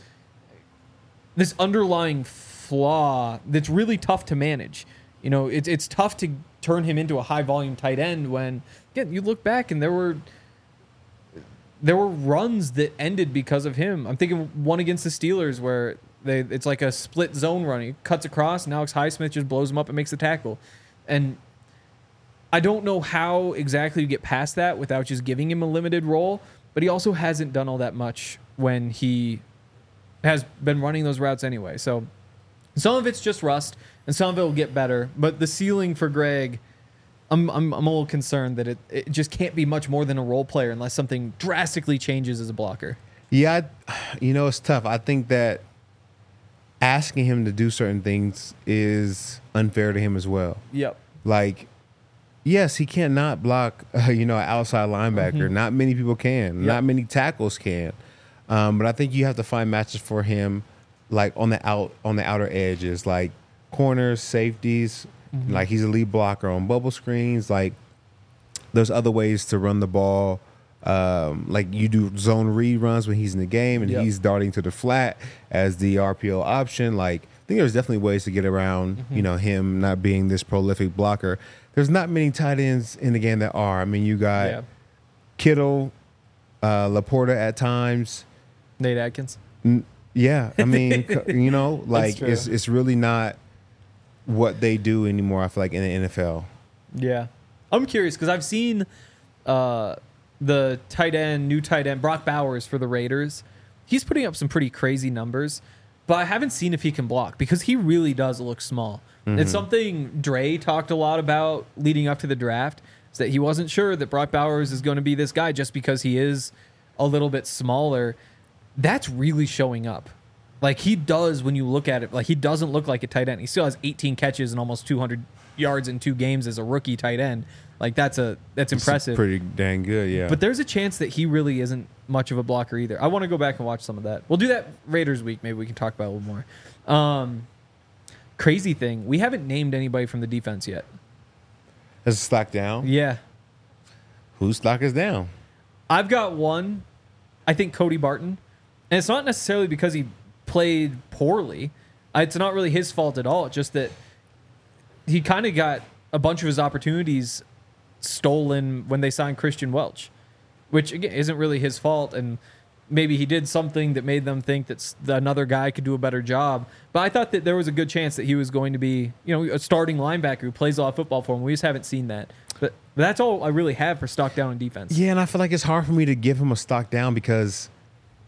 Speaker 2: underlying flaw that's really tough to manage. It's tough to turn him into a high volume tight end when, again, you look back and there were runs that ended because of him. I'm thinking one against the Steelers where it's like a split zone run. He cuts across, and Alex Highsmith just blows him up and makes the tackle. And I don't know how exactly you get past that without just giving him a limited role, but he also hasn't done all that much when he has been running those routes anyway. So some of it's just rust, and some of it will get better. But the ceiling for Greg, I'm a little concerned that it just can't be much more than a role player unless something drastically changes as a blocker.
Speaker 3: Yeah, it's tough. I think that asking him to do certain things is unfair to him as well.
Speaker 2: Yep.
Speaker 3: Like, yes, he cannot block, an outside linebacker. Not many people can. Yep. Not many tackles can. But I think you have to find matches for him, like on the outer edges, like corners, safeties. Like, he's a lead blocker on bubble screens. Like, there's other ways to run the ball. Like, you do zone read runs when he's in the game and he's darting to the flat as the RPO option. Like, I think there's definitely ways to get around, him not being this prolific blocker. There's not many tight ends in the game that are. I mean, you got Kittle, Laporta at times.
Speaker 2: Nate Atkins.
Speaker 3: Yeah. I mean, like, it's really not what they do anymore, I feel like, in the NFL.
Speaker 2: Yeah. I'm curious because I've seen the new tight end, Brock Bowers for the Raiders. He's putting up some pretty crazy numbers, but I haven't seen if he can block because he really does look small. It's something Dre talked a lot about leading up to the draft, is that he wasn't sure that Brock Bowers is going to be this guy just because he is a little bit smaller. That's really showing up. Like, he does, when you look at it, like, he doesn't look like a tight end. He still has 18 catches and almost 200 yards in 2 games as a rookie tight end. Like, that's impressive.
Speaker 3: Pretty dang good, yeah.
Speaker 2: But there's a chance that he really isn't much of a blocker either. I want to go back and watch some of that. We'll do that Raiders week. Maybe we can talk about it a little more. Crazy thing, we haven't named anybody from the defense yet.
Speaker 3: Has it stock down?
Speaker 2: Yeah.
Speaker 3: Whose stock is down?
Speaker 2: I've got one. I think Cody Barton. And it's not necessarily because he played poorly. It's not really his fault at all. It's just that he kind of got a bunch of his opportunities stolen when they signed Christian Welch, which, again, isn't really his fault. And maybe he did something that made them think that another guy could do a better job. But I thought that there was a good chance that he was going to be, a starting linebacker who plays a lot of football for him. We just haven't seen that. But that's all I really have for stock down in defense.
Speaker 3: Yeah, and I feel like it's hard for me to give him a stock down because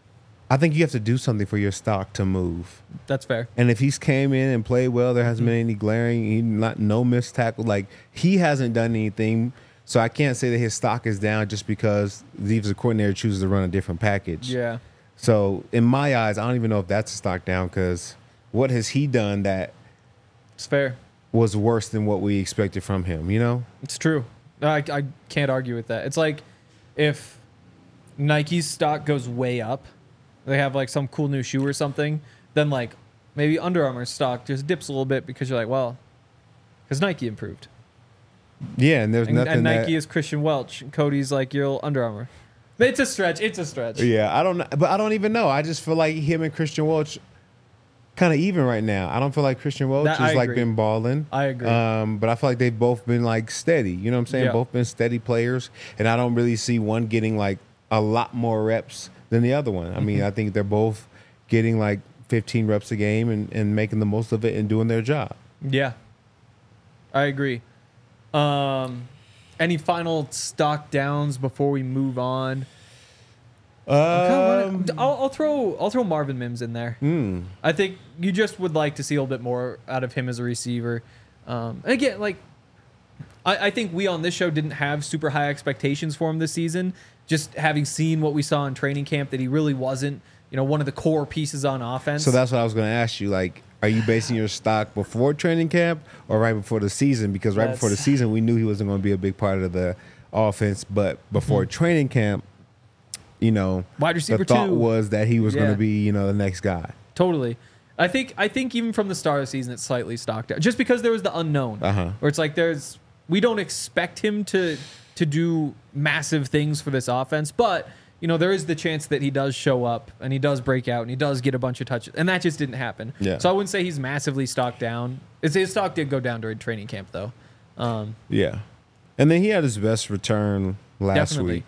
Speaker 3: I think you have to do something for your stock to move.
Speaker 2: That's fair.
Speaker 3: And if he's came in and played well, there hasn't been any glaring, no missed tackle. Like, he hasn't done anything. So I can't say that his stock is down just because the defensive coordinator chooses to run a different package.
Speaker 2: Yeah.
Speaker 3: So in my eyes, I don't even know if that's a stock down, because what has he done that
Speaker 2: It's fair.
Speaker 3: was worse than what we expected from him, you know?
Speaker 2: It's true. I can't argue with that. It's like if Nike's stock goes way up, they have like some cool new shoe or something, then like maybe Under Armour's stock just dips a little bit because you're like, well, because Nike improved.
Speaker 3: Yeah, and there's nothing
Speaker 2: And Nike is Christian Welch. And Cody's like, you're Under Armour. It's a stretch. It's a stretch.
Speaker 3: Yeah, I don't know, but I don't even know. I just feel like him and Christian Welch kind of even right now. I don't feel like Christian Welch has like been balling.
Speaker 2: I agree.
Speaker 3: But I feel like they've both been like steady. You know what I'm saying?
Speaker 2: Yeah.
Speaker 3: Both been steady players, and I don't really see one getting like a lot more reps than the other one. I mean, I think they're both getting like 15 reps a game and making the most of it and doing their job.
Speaker 2: Yeah, I agree. Any final stock downs before we move on? I'll throw Marvin Mims in there. I think you just would like to see a little bit more out of him as a receiver. And again, like I think we on this show didn't have super high expectations for him this season. Just having seen what we saw in training camp, that he really wasn't, one of the core pieces on offense.
Speaker 3: So that's what I was going to ask you. Like, are you basing your stock before training camp or right before the season? Because before the season, we knew he wasn't going to be a big part of the offense. But before training camp,
Speaker 2: wide receiver
Speaker 3: the thought
Speaker 2: 2
Speaker 3: was that he was going to be, the next guy.
Speaker 2: Totally. I think even from the start of the season, it's slightly stocked out, just because there was the unknown, where it's like we don't expect him to do massive things for this offense, but there is the chance that he does show up and he does break out and he does get a bunch of touches, and that just didn't happen.
Speaker 3: Yeah.
Speaker 2: So I wouldn't say he's massively stocked down. His stock did go down during training camp, though.
Speaker 3: Yeah, and then he had his best return last week.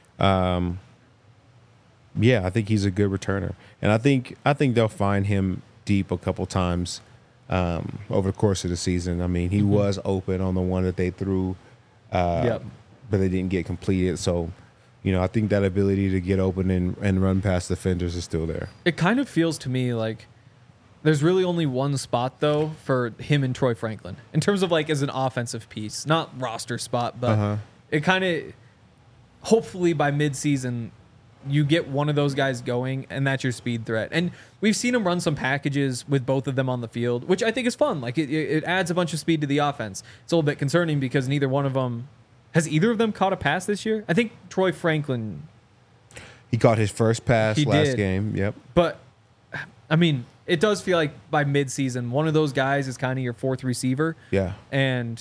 Speaker 3: Yeah, I think he's a good returner, and I think they'll find him deep a couple times over the course of the season. I mean, he was open on the one that they threw, but they didn't get completed. So, I think that ability to get open and run past defenders is still there.
Speaker 2: It kind of feels to me like there's really only one spot, though, for him and Troy Franklin in terms of like as an offensive piece, not roster spot, but it kind of hopefully by midseason you get one of those guys going, and that's your speed threat. And we've seen him run some packages with both of them on the field, which I think is fun. Like it adds a bunch of speed to the offense. It's a little bit concerning because neither one of them has either of them caught a pass this year. I think Troy Franklin,
Speaker 3: he caught his first pass last game. Yep.
Speaker 2: But I mean, it does feel like by midseason, one of those guys is kind of your fourth receiver.
Speaker 3: Yeah.
Speaker 2: And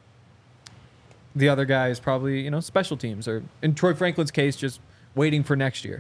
Speaker 2: the other guy is probably, special teams, or in Troy Franklin's case, just waiting for next year.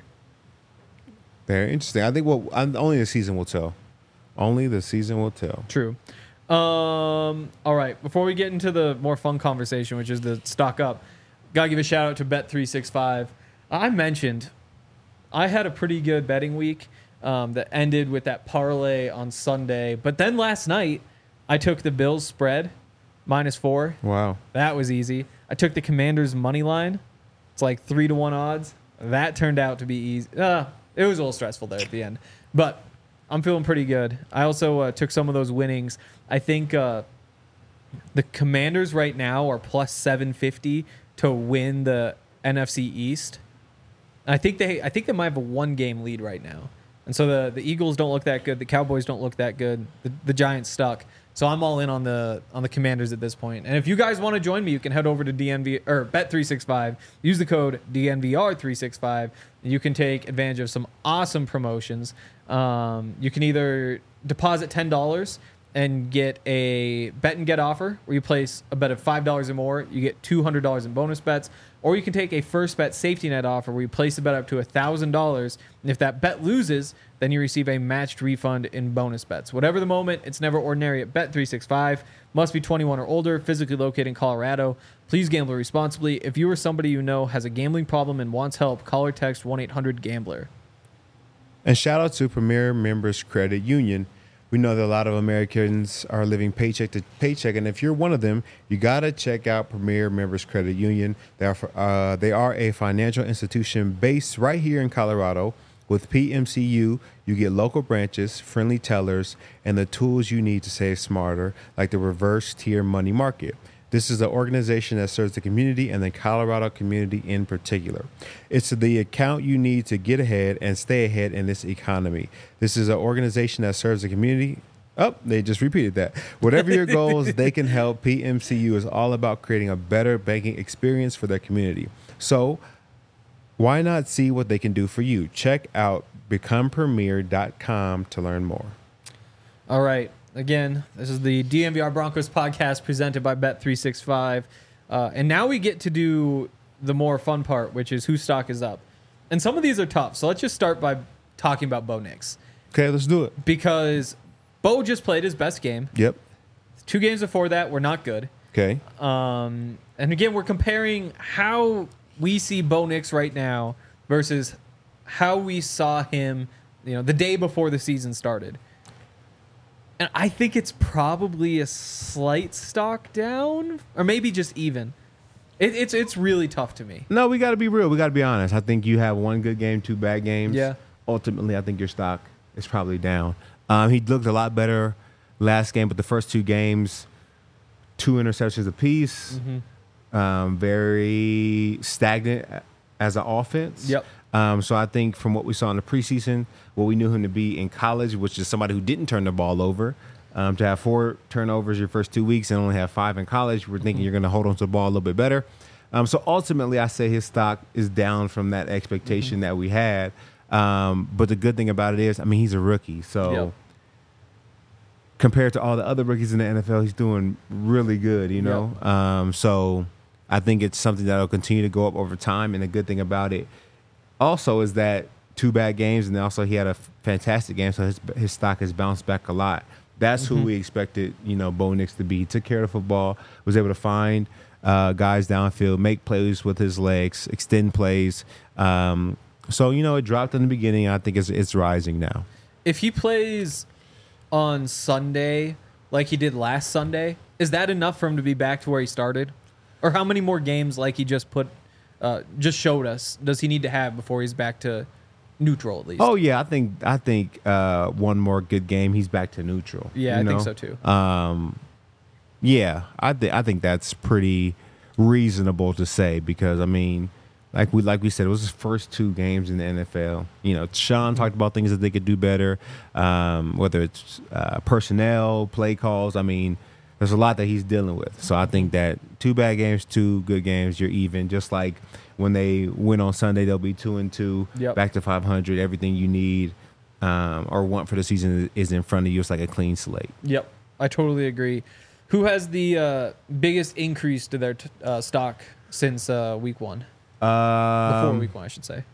Speaker 3: Very interesting. I think only the season will tell. Only the season will tell.
Speaker 2: True. All right. Before we get into the more fun conversation, which is the stock up, gotta give a shout out to Bet365. I mentioned I had a pretty good betting week that ended with that parlay on Sunday, but then last night I took the Bills spread -4.
Speaker 3: Wow.
Speaker 2: That was easy. I took the Commanders money line. It's like 3-1 odds. That turned out to be easy. It was a little stressful there at the end, but I'm feeling pretty good. I also took some of those winnings. I think the Commanders right now are plus 750 to win the NFC East. I think they might have a 1-game lead right now. And so the Eagles don't look that good. The Cowboys don't look that good. The Giants stuck. So I'm all in on the Commanders at this point. And if you guys want to join me, you can head over to Bet365. Use the code DNVR365, and you can take advantage of some awesome promotions. You can either deposit $10 and get a bet and get offer where you place a bet of $5 or more, you get $200 in bonus bets, or you can take a first bet safety net offer where you place a bet up to $1,000, and if that bet loses, then you receive a matched refund in bonus bets. Whatever the moment, it's never ordinary at Bet365. Must be 21 or older, physically located in Colorado. Please gamble responsibly. If you or somebody you know has a gambling problem and wants help, call or text 1-800-GAMBLER.
Speaker 3: And shout out to Premier Members Credit Union. We know that a lot of Americans are living paycheck to paycheck, and if you're one of them, you got to check out Premier Members Credit Union. They are a financial institution based right here in Colorado With PMCU, you get local branches, friendly tellers, and the tools you need to save smarter, like the reverse tier money market. This is an organization that serves the community and the Colorado community in particular. It's the account you need to get ahead and stay ahead in this economy. This is an organization that serves the community. Oh, they just repeated that. Whatever your goals, they can help. PMCU is all about creating a better banking experience for their community. So why not see what they can do for you? Check out becomepremier.com to learn more.
Speaker 2: All right. Again, this is the DMVR Broncos podcast presented by Bet365. And now we get to do the more fun part, which is whose stock is up. And some of these are tough. So let's just start by talking about Bo Nix.
Speaker 3: Okay, let's do it.
Speaker 2: Because Bo just played his best game.
Speaker 3: Yep.
Speaker 2: 2 games before that were not good.
Speaker 3: Okay.
Speaker 2: And again, we're comparing how we see Bo Nix right now versus how we saw him, the day before the season started. And I think it's probably a slight stock down, or maybe just even. It's really tough to me.
Speaker 3: No, we got to be real. We got to be honest. I think you have 1 good game, 2 bad games.
Speaker 2: Yeah.
Speaker 3: Ultimately, I think your stock is probably down. He looked a lot better last game, but the first 2 games, 2 interceptions apiece.
Speaker 2: Mm-hmm.
Speaker 3: Very stagnant as an offense.
Speaker 2: Yep.
Speaker 3: So I think from what we saw in the preseason, what we knew him to be in college, which is somebody who didn't turn the ball over, to have 4 turnovers your first 2 weeks and only have 5 in college, we're thinking you're going to hold on to the ball a little bit better. So ultimately, I say his stock is down from that expectation that we had. But the good thing about it is, he's a rookie. So compared to all the other rookies in the NFL, he's doing really good, So I think it's something that will continue to go up over time. And the good thing about it also is that 2 bad games, and also he had a fantastic game, so his stock has bounced back a lot. That's who we expected, Bo Nix to be. He took care of the football, was able to find guys downfield, make plays with his legs, extend plays. So, it dropped in the beginning. I think it's rising now.
Speaker 2: If he plays on Sunday like he did last Sunday, is that enough for him to be back to where he started? Or how many more games like he just showed us does he need to have before he's back to neutral at least?
Speaker 3: Oh yeah, I think 1 more good game, he's back to neutral.
Speaker 2: Yeah, I think so too.
Speaker 3: Yeah, I think that's pretty reasonable to say because like we said, it was his first 2 games in the NFL. Sean talked about things that they could do better, whether it's personnel, play calls. There's a lot that he's dealing with. So I think that 2 bad games, 2 good games, you're even. Just like when they win on Sunday, they'll be 2-2, back to 500. Everything you need or want for the season is in front of you. It's like a clean slate.
Speaker 2: Yep, I totally agree. Who has the biggest increase to their stock since week 1? Before week 1, I should say.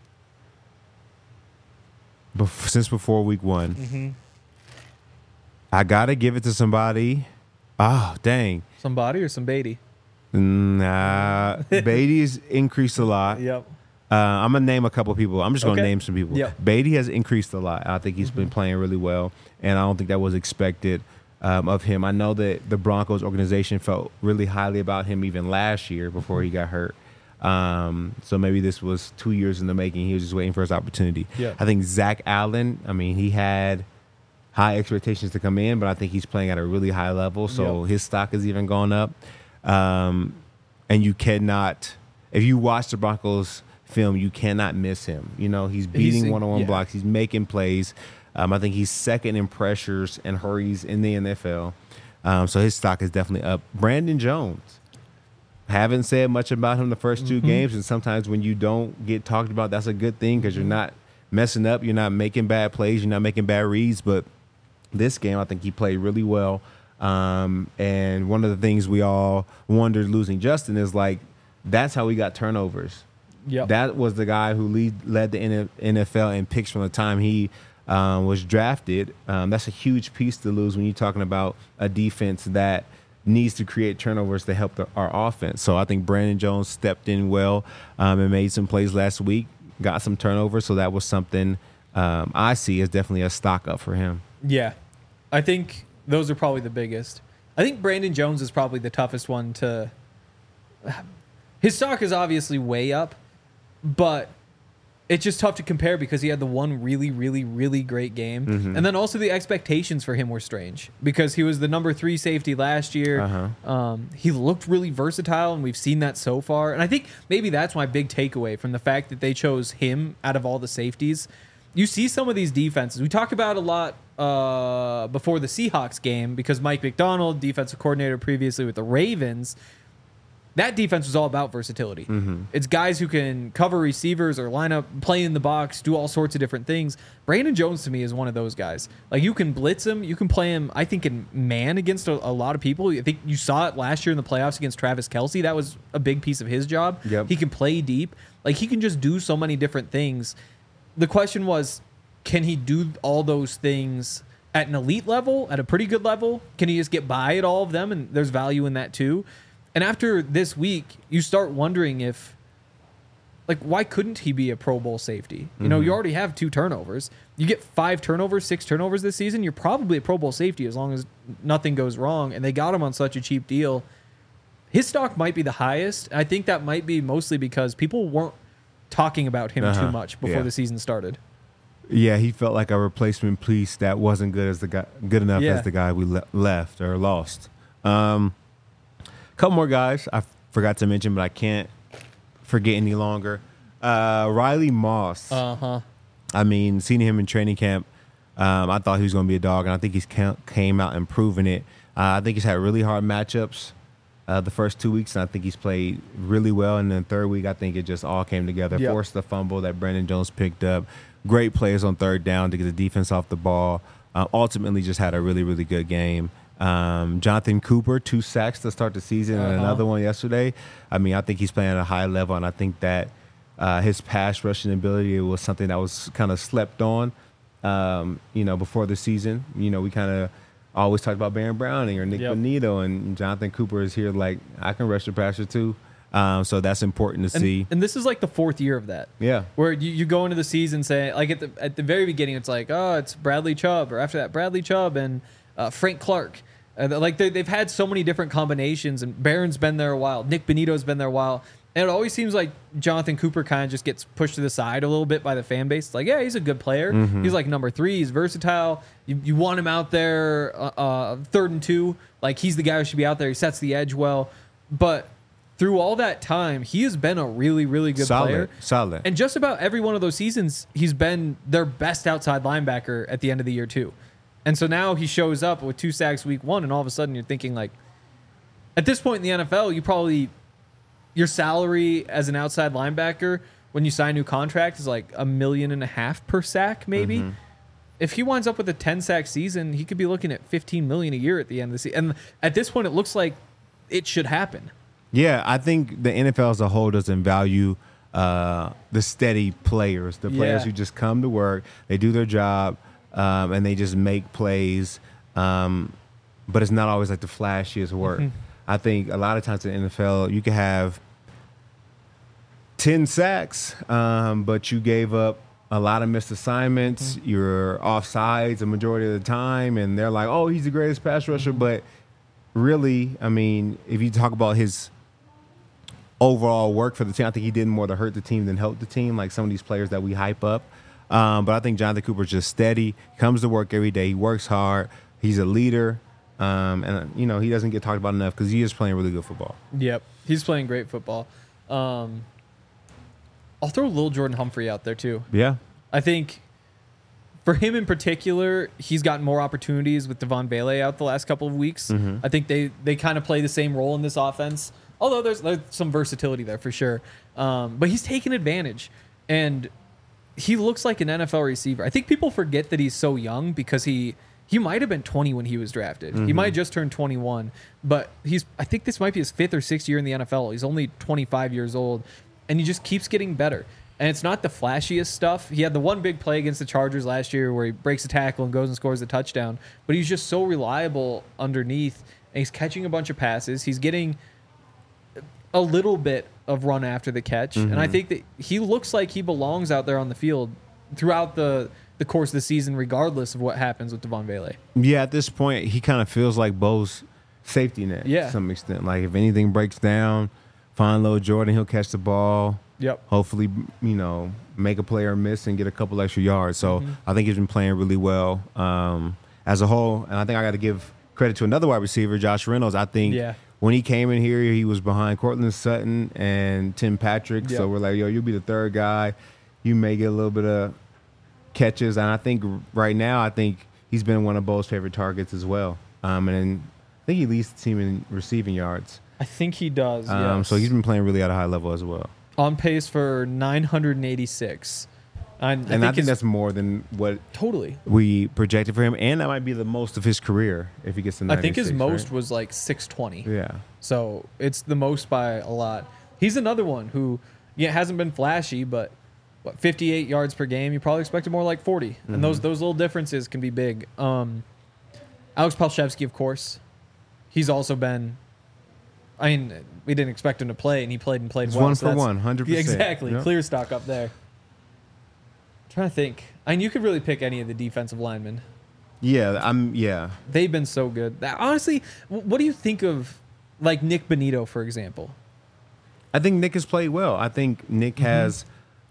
Speaker 3: Since before week 1. I got to give it to somebody. Oh, dang.
Speaker 2: Somebody or some Beatty?
Speaker 3: Nah. Beatty's increased a lot.
Speaker 2: Yep.
Speaker 3: I'm going to name a couple people. I'm just going to name some people.
Speaker 2: Yep.
Speaker 3: Beatty has increased a lot. I think he's been playing really well, and I don't think that was expected of him. I know that the Broncos organization felt really highly about him even last year before he got hurt. So maybe this was 2 years in the making. He was just waiting for his opportunity.
Speaker 2: Yeah.
Speaker 3: I think Zach Allen, he had high expectations to come in, but I think he's playing at a really high level, so his stock has even gone up. And you cannot, if you watch the Broncos film, you cannot miss him. He's beating one-on-one blocks. He's making plays. I think he's second in pressures and hurries in the NFL. So his stock is definitely up. Brandon Jones. Haven't said much about him the first 2 games, and sometimes when you don't get talked about, that's a good thing because you're not messing up, you're not making bad plays, you're not making bad reads. But this game, I think he played really well. And one of the things we all wondered losing Justin is that's how we got turnovers.
Speaker 2: Yep.
Speaker 3: That was the guy who led the NFL in picks from the time he was drafted. That's a huge piece to lose when you're talking about a defense that needs to create turnovers to help our offense. So I think Brandon Jones stepped in well and made some plays last week, got some turnovers. So that was something I see as definitely a stock up for him.
Speaker 2: Yeah, I think those are probably the biggest. I think Brandon Jones is probably the toughest one to... His stock is obviously way up, but it's just tough to compare because he had the one really, really, really great game.
Speaker 3: Mm-hmm.
Speaker 2: And then also the expectations for him were strange because he was the number 3 safety last year. He looked really versatile, and we've seen that so far. And I think maybe that's my big takeaway from the fact that they chose him out of all the safeties. You see some of these defenses. We talk about a lot before the Seahawks game because Mike McDonald, defensive coordinator previously with the Ravens, that defense was all about versatility. It's guys who can cover receivers or line up, play in the box, do all sorts of different things. Brandon Jones, to me, is one of those guys. Like, you can blitz him. You can play him, I think, in man against a lot of people. I think you saw it last year in the playoffs against Travis Kelce. That was a big piece of his job.
Speaker 3: Yep.
Speaker 2: He can play deep. Like, he can just do so many different things. The question was, can he do all those things at an elite level, at a pretty good level? Can he just get by at all of them? And there's value in that, too. And after this week, you start wondering if, like, why couldn't he be a Pro Bowl safety? You know, you already have 2 turnovers. You get 5 turnovers, 6 turnovers this season, you're probably a Pro Bowl safety as long as nothing goes wrong. And they got him on such a cheap deal. His stock might be the highest. I think that might be mostly because people weren't talking about him too much before the season started.
Speaker 3: Yeah, he felt like a replacement piece that wasn't good enough as the guy we left or lost. Couple more guys I forgot to mention, but I can't forget any longer. Riley Moss. I mean, seeing him in training camp, I thought he was going to be a dog, and I think he's came out and proven it. I think he's had really hard matchups the first 2 weeks, and I think he's played really well. And then third week, I think it just all came together.
Speaker 2: Yep.
Speaker 3: Forced the fumble that Brandon Jones picked up. Great plays on third down to get the defense off the ball. Ultimately, just had a really, really good game. Jonathan Cooper, 2 sacks to start the season and another one yesterday. I mean, I think he's playing at a high level, and I think that his pass rushing ability was something that was kind of slept on, before the season. We kind of always talked about Baron Browning or Nick Bonito, and Jonathan Cooper is here like, I can rush the passer too. So that's important to see.
Speaker 2: And this is like the 4th year of that.
Speaker 3: Yeah.
Speaker 2: Where you go into the season saying, like at the very beginning, it's like, oh, it's Bradley Chubb, or after that, Bradley Chubb and Frank Clark. Like they've had so many different combinations, and Barron's been there a while. Nick Bonito's been there a while. And it always seems like Jonathan Cooper kind of just gets pushed to the side a little bit by the fan base. It's like, yeah, he's a good player. He's like number 3. He's versatile. You want him out there 3rd and 2. Like, he's the guy who should be out there. He sets the edge well. But through all that time, he has been a really, really good player.
Speaker 3: Solid.
Speaker 2: And just about every one of those seasons, he's been their best outside linebacker at the end of the year, too. And so now he shows up with 2 sacks week 1, and all of a sudden you're thinking, like, at this point in the NFL, your salary as an outside linebacker when you sign a new contract is like $1.5 million per sack, maybe. If he winds up with a 10-sack season, he could be looking at $15 million a year at the end of the season. And at this point, it looks like it should happen.
Speaker 3: Yeah, I think the NFL as a whole doesn't value the steady players, the players who just come to work, they do their job, and they just make plays. But it's not always like the flashiest work. I think a lot of times in the NFL, you can have 10 sacks, but you gave up a lot of missed assignments. You're offsides a majority of the time, and they're like, oh, he's the greatest pass rusher. But really, I mean, if you talk about his overall work for the team, I think he did more to hurt the team than help the team, like some of these players that we hype up. But I think Jonathan Cooper's just steady, comes to work every day, he works hard, he's a leader. And, he doesn't get talked about enough because he is playing really good football.
Speaker 2: Yep. He's playing great football. I'll throw Lil Jordan Humphrey out there, too.
Speaker 3: Yeah.
Speaker 2: I think for him in particular, he's gotten more opportunities with Devon Bailey out the last couple of weeks. I think they kind of play the same role in this offense, although there's some versatility there for sure. But he's taken advantage, and he looks like an NFL receiver. I think people forget that he's so young because he might have been 20 when he was drafted. He might have just turned 21, but I think this might be his 5th or 6th year in the NFL. He's only 25 years old, and he just keeps getting better. And it's not the flashiest stuff. He had the one big play against the Chargers last year where he breaks a tackle and goes and scores a touchdown, but he's just so reliable underneath, and he's catching a bunch of passes. He's getting a little bit of run after the catch, and I think that he looks like he belongs out there on the field throughout the course of the season, regardless of what happens with Devon Bailey.
Speaker 3: Yeah, at this point, he kind of feels like Bo's safety net to some extent. Like, if anything breaks down, find Lil Jordan, he'll catch the ball.
Speaker 2: Yep.
Speaker 3: hopefully, make a player miss and get a couple extra yards. So I think he's been playing really well as a whole. And I think I got to give credit to another wide receiver, Josh Reynolds. I think when he came in here, he was behind Cortland Sutton and Tim Patrick.
Speaker 2: Yep.
Speaker 3: So we're like, yo, you'll be the third guy. You may get a little bit of catches. And I think right now, he's been one of Bo's favorite targets as well. And I think he leads the team in receiving yards.
Speaker 2: I think he does. Yes.
Speaker 3: So he's been playing really at a high level as well.
Speaker 2: On pace for 986.
Speaker 3: I think that's more than what
Speaker 2: totally
Speaker 3: we projected for him. And that might be the most of his career if he gets to 96.
Speaker 2: I think his most
Speaker 3: right?
Speaker 2: was like 620.
Speaker 3: Yeah.
Speaker 2: So it's the most by a lot. He's another one who hasn't been flashy, but 58 yards per game. You probably expected more like 40. And those little differences can be big. Alex Palshevsky, of course. He's also been... I mean, we didn't expect him to play, and he played well.
Speaker 3: It's 1 for 1, 100%.
Speaker 2: Yeah, exactly.
Speaker 3: Yep.
Speaker 2: Clear stock up there. Trying to think. I mean, you could really pick any of the defensive linemen.
Speaker 3: Yeah.
Speaker 2: They've been so good. Honestly, what do you think of, like, Nick Benito, for example?
Speaker 3: I think Nick has played well. I think Nick has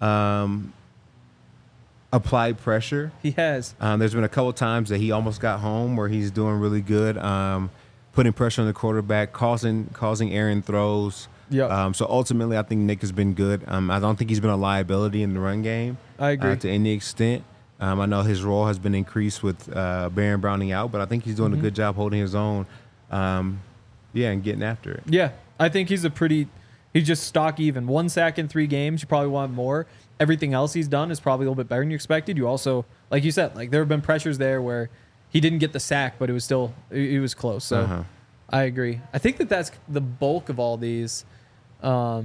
Speaker 3: applied pressure.
Speaker 2: He has.
Speaker 3: There's been a couple times that he almost got home where he's doing really good, putting pressure on the quarterback, causing errant throws.
Speaker 2: Yeah.
Speaker 3: So ultimately, I think Nick has been good. I don't think he's been a liability in the run game.
Speaker 2: I agree.
Speaker 3: To any extent. I know his role has been increased with Baron Browning out, but I think he's doing a good job holding his own. And getting after it.
Speaker 2: Yeah, I think he's just stock even. 1 sack in 3 games. You probably want more. Everything else he's done is probably a little bit better than you expected. You also, like you said, like there have been pressures there where he didn't get the sack, but it was still, it was close. So I agree. I think that's the bulk of all these. Off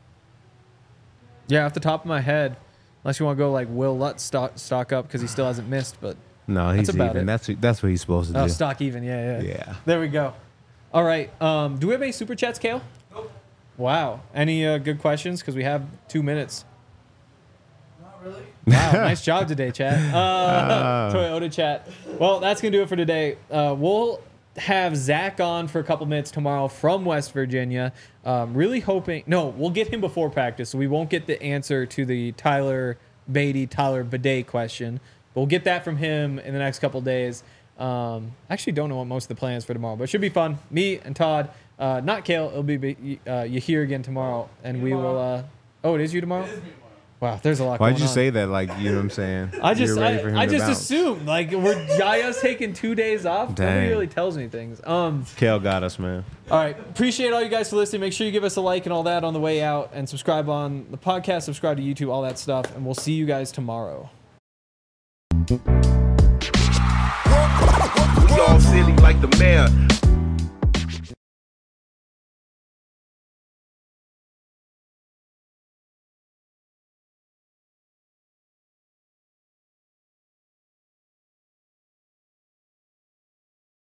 Speaker 2: the top of my head, unless you want to go like Will Lutz stock up because he still hasn't missed, but
Speaker 3: no, he's
Speaker 2: that's about
Speaker 3: even.
Speaker 2: it.
Speaker 3: That's what he's supposed to do.
Speaker 2: Stock even, yeah.
Speaker 3: Yeah.
Speaker 2: There we go. All right. Do we have any super chats, Kale?
Speaker 5: Nope.
Speaker 2: Wow. Any good questions? Because we have 2 minutes.
Speaker 5: Not really.
Speaker 2: Wow, nice job today, chat. Toyota chat. Well, that's going to do it for today. We'll have Zach on for a couple minutes tomorrow from West Virginia. Really hoping... No, we'll get him before practice, so we won't get the answer to the Tyler Bidet question. But we'll get that from him in the next couple days. Actually don't know what most of the plans for tomorrow, but it should be fun. Me and Todd, not Kale. It'll be you here again tomorrow, and we will... it is you tomorrow?
Speaker 5: It is me tomorrow.
Speaker 2: Wow, there's a lot going on.
Speaker 3: Why'd you say that? Like, you know what I'm saying?
Speaker 2: I
Speaker 3: You're ready for him
Speaker 2: I
Speaker 3: to
Speaker 2: just
Speaker 3: bounce.
Speaker 2: assumed like we're Yaya's taking 2 days off. Nobody
Speaker 3: Dang.
Speaker 2: really tells me things.
Speaker 3: Kale got us, man.
Speaker 2: All right, appreciate all you guys for listening. Make sure you give us a like and all that on the way out, and subscribe on the podcast, subscribe to YouTube, all that stuff, and we'll see you guys tomorrow.
Speaker 6: We all silly like the mayor.